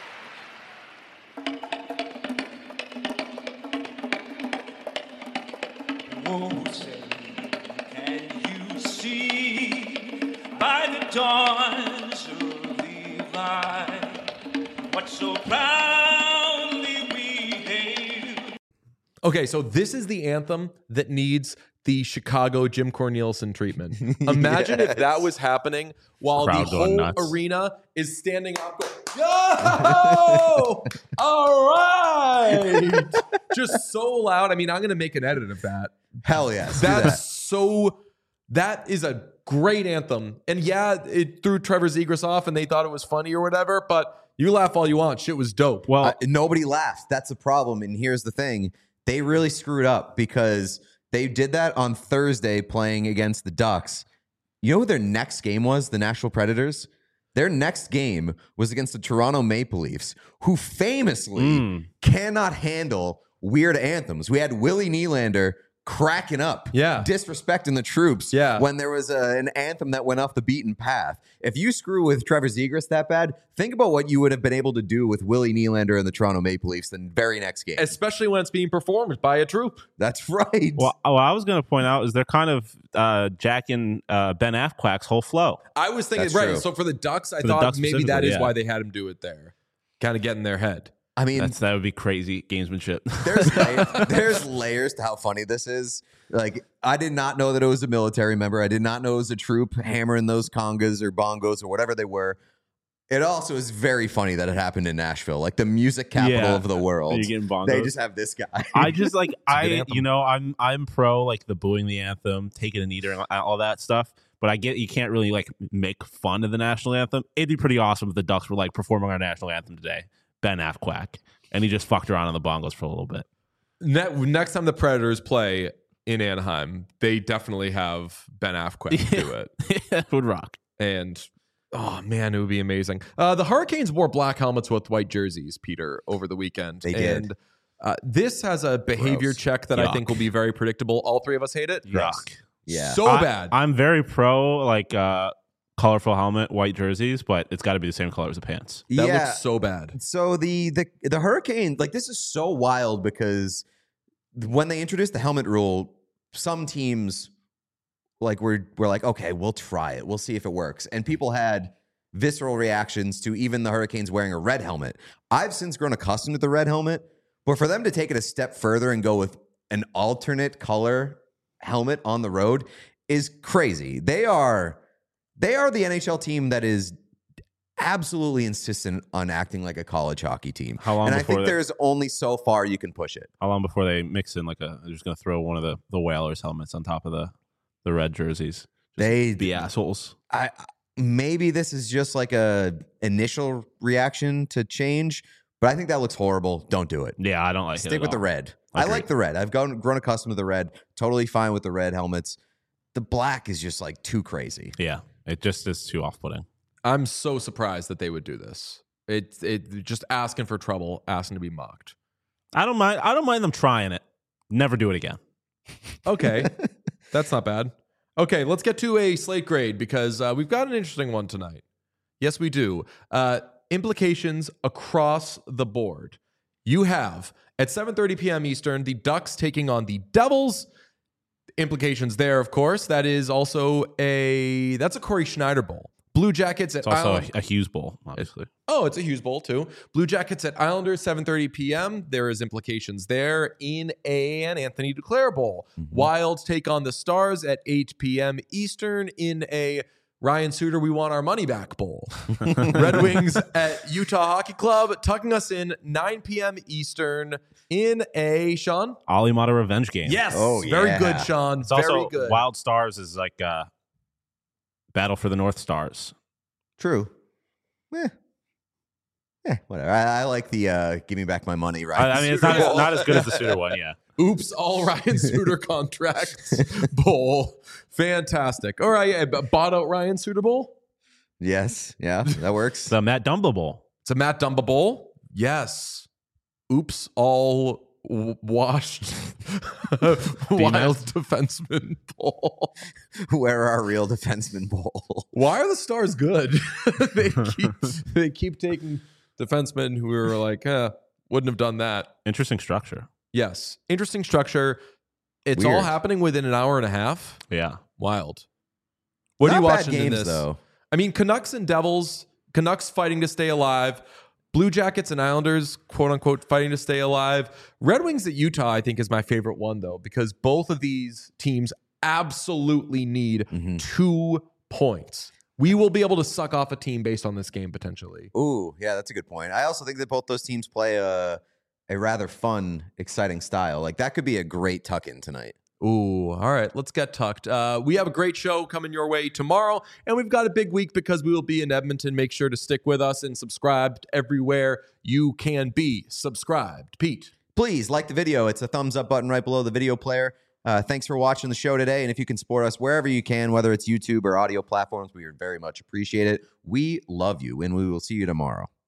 Can you see by the dawn's early light what so proudly we hailed? Okay, so this is the anthem that needs the Chicago Jim Cornelison treatment. Imagine if that was happening while Crowd the going whole nuts. arena is standing up going, yo! All right! Just so loud. I mean, I'm going to make an edit of that. Hell yes. do That's that. so, that is a great anthem. And yeah, it threw Trevor Zegras off and they thought it was funny or whatever, but you laugh all you want. Shit was dope. Well, Uh, nobody laughed. That's the problem. And here's the thing. They really screwed up because they did that on Thursday playing against the Ducks. You know who their next game was? The Nashville Predators? Their next game was against the Toronto Maple Leafs, who famously Mm. cannot handle weird anthems. We had Willie Nylander cracking up, yeah, disrespecting the troops, yeah. when there was a, an anthem that went off the beaten path. If you screw with Trevor Zegras that bad, think about what you would have been able to do with Willie Nylander and the Toronto Maple Leafs the very next game. Especially when it's being performed by a troop. That's right. Well, what I was going to point out is they're kind of uh, jacking uh, Ben Affleck's whole flow. I was thinking, That's right. true. So for the Ducks, I For the thought Ducks maybe that is specifically, yeah. why they had him do it there. Kind of get in their head. I mean, That's, that would be crazy gamesmanship. there's la- there's layers to how funny this is. Like, I did not know that it was a military member. I did not know it was a troop hammering those congas or bongos or whatever they were. It also is very funny that it happened in Nashville, like the music capital Yeah. of the world. You're getting bongos. They just have this guy. I just like good I anthem. you know I'm I'm pro like the booing the anthem, taking a knee and all that stuff. But I get you can't really like make fun of the national anthem. It'd be pretty awesome if the Ducks were like performing our national anthem today, Ben Affleck, and he just fucked around on the bongos for a little bit. Ne- next time the Predators play in Anaheim, they definitely have Ben Affleck do it. It would rock. And oh man, it would be amazing. Uh, the Hurricanes wore black helmets with white jerseys, Peter, over the weekend. They did. And uh, this has a behavior Gross. check that I Yuck. think will be very predictable. All three of us hate it. Yuck. Yeah. So I- bad. I'm very pro like uh colorful helmet, white jerseys, but it's got to be the same color as the pants. that yeah. looks so bad. So the the the Hurricane, like, this is so wild because when they introduced the helmet rule, some teams like were were like, okay, we'll try it, we'll see if it works, and people had visceral reactions to even the Hurricanes wearing a red helmet. I've since grown accustomed to the red helmet, but for them to take it a step further and go with an alternate color helmet on the road is crazy. They are they are the N H L team that is absolutely insistent on acting like a college hockey team. How long and I before think they- there's only so far you can push it. How long before they mix in like a? They're just gonna throw one of the the Whalers helmets on top of the the red jerseys. Just They be assholes. I maybe this is just like a initial reaction to change, but I think that looks horrible. Don't do it. Yeah, I don't like it. Stick at with the all. red. I Agreed. like the red. I've gone, grown accustomed to the red. Totally fine with the red helmets. The black is just like too crazy. Yeah, it just is too off-putting. I'm so surprised that they would do this. It it just asking for trouble, asking to be mocked. I don't mind. I don't mind them trying it. Never do it again. Okay, that's not bad. Okay, let's get to a slate grade because uh, we've got an interesting one tonight. Yes, we do. Uh, implications across the board. You have at seven thirty p.m. Eastern the Ducks taking on the Devils. Implications there, of course. That is also a that's a Corey Schneider Bowl. Blue Jackets at It's also Island- a, a Hughes Bowl, obviously. Oh, it's a Hughes Bowl too. Blue Jackets at Islanders, seven thirty p.m. There is implications there in an Anthony Duclair Bowl. Mm-hmm. Wilds take on the Stars at eight p.m. Eastern in a Ryan Suter, we want our money back bowl. Red Wings at Utah Hockey Club, tucking us in nine p.m. Eastern in a, Sean? Ollie Mata revenge game. Yes. Oh, Very yeah. good, Sean. It's Very also good. Wild Stars is like uh Battle for the North Stars. True. Eh. Eh, whatever. I, I like the uh, give me back my money, right? I, I mean, it's not, Bowl. as, not as good as the Suter one, yeah. Oops, all Ryan Suter contracts bowl. Fantastic. All right, yeah, bought out Ryan Suter Bowl. Yes. Yeah, that works. The Matt Dumba Bowl. It's a Matt Dumba Bowl. Yes. Oops, all w- washed wild defenseman bowl. Where are real defensemen bowl? Why are the Stars good? they keep they keep taking defensemen who are like, eh, wouldn't have done that. Interesting structure. Yes. Interesting structure. It's all Weird. happening within an hour and a half. Yeah. Wild. What Not are you bad watching in games, this? though. I mean, Canucks and Devils, Canucks fighting to stay alive. Blue Jackets and Islanders, quote unquote, fighting to stay alive. Red Wings at Utah, I think, is my favorite one, though, because both of these teams absolutely need Mhm. two points. We will be able to suck off a team based on this game, potentially. Ooh, yeah, that's a good point. I also think that both those teams play a a rather fun, exciting style. Like, that could be a great tuck-in tonight. Ooh, all right, let's get tucked. Uh, we have a great show coming your way tomorrow, and we've got a big week because we will be in Edmonton. Make sure to stick with us and subscribe everywhere you can be subscribed. Pete. Please like the video. It's a thumbs up button right below the video player. Uh, thanks for watching the show today. And if you can support us wherever you can, whether it's YouTube or audio platforms, we would very much appreciate it. We love you, and we will see you tomorrow.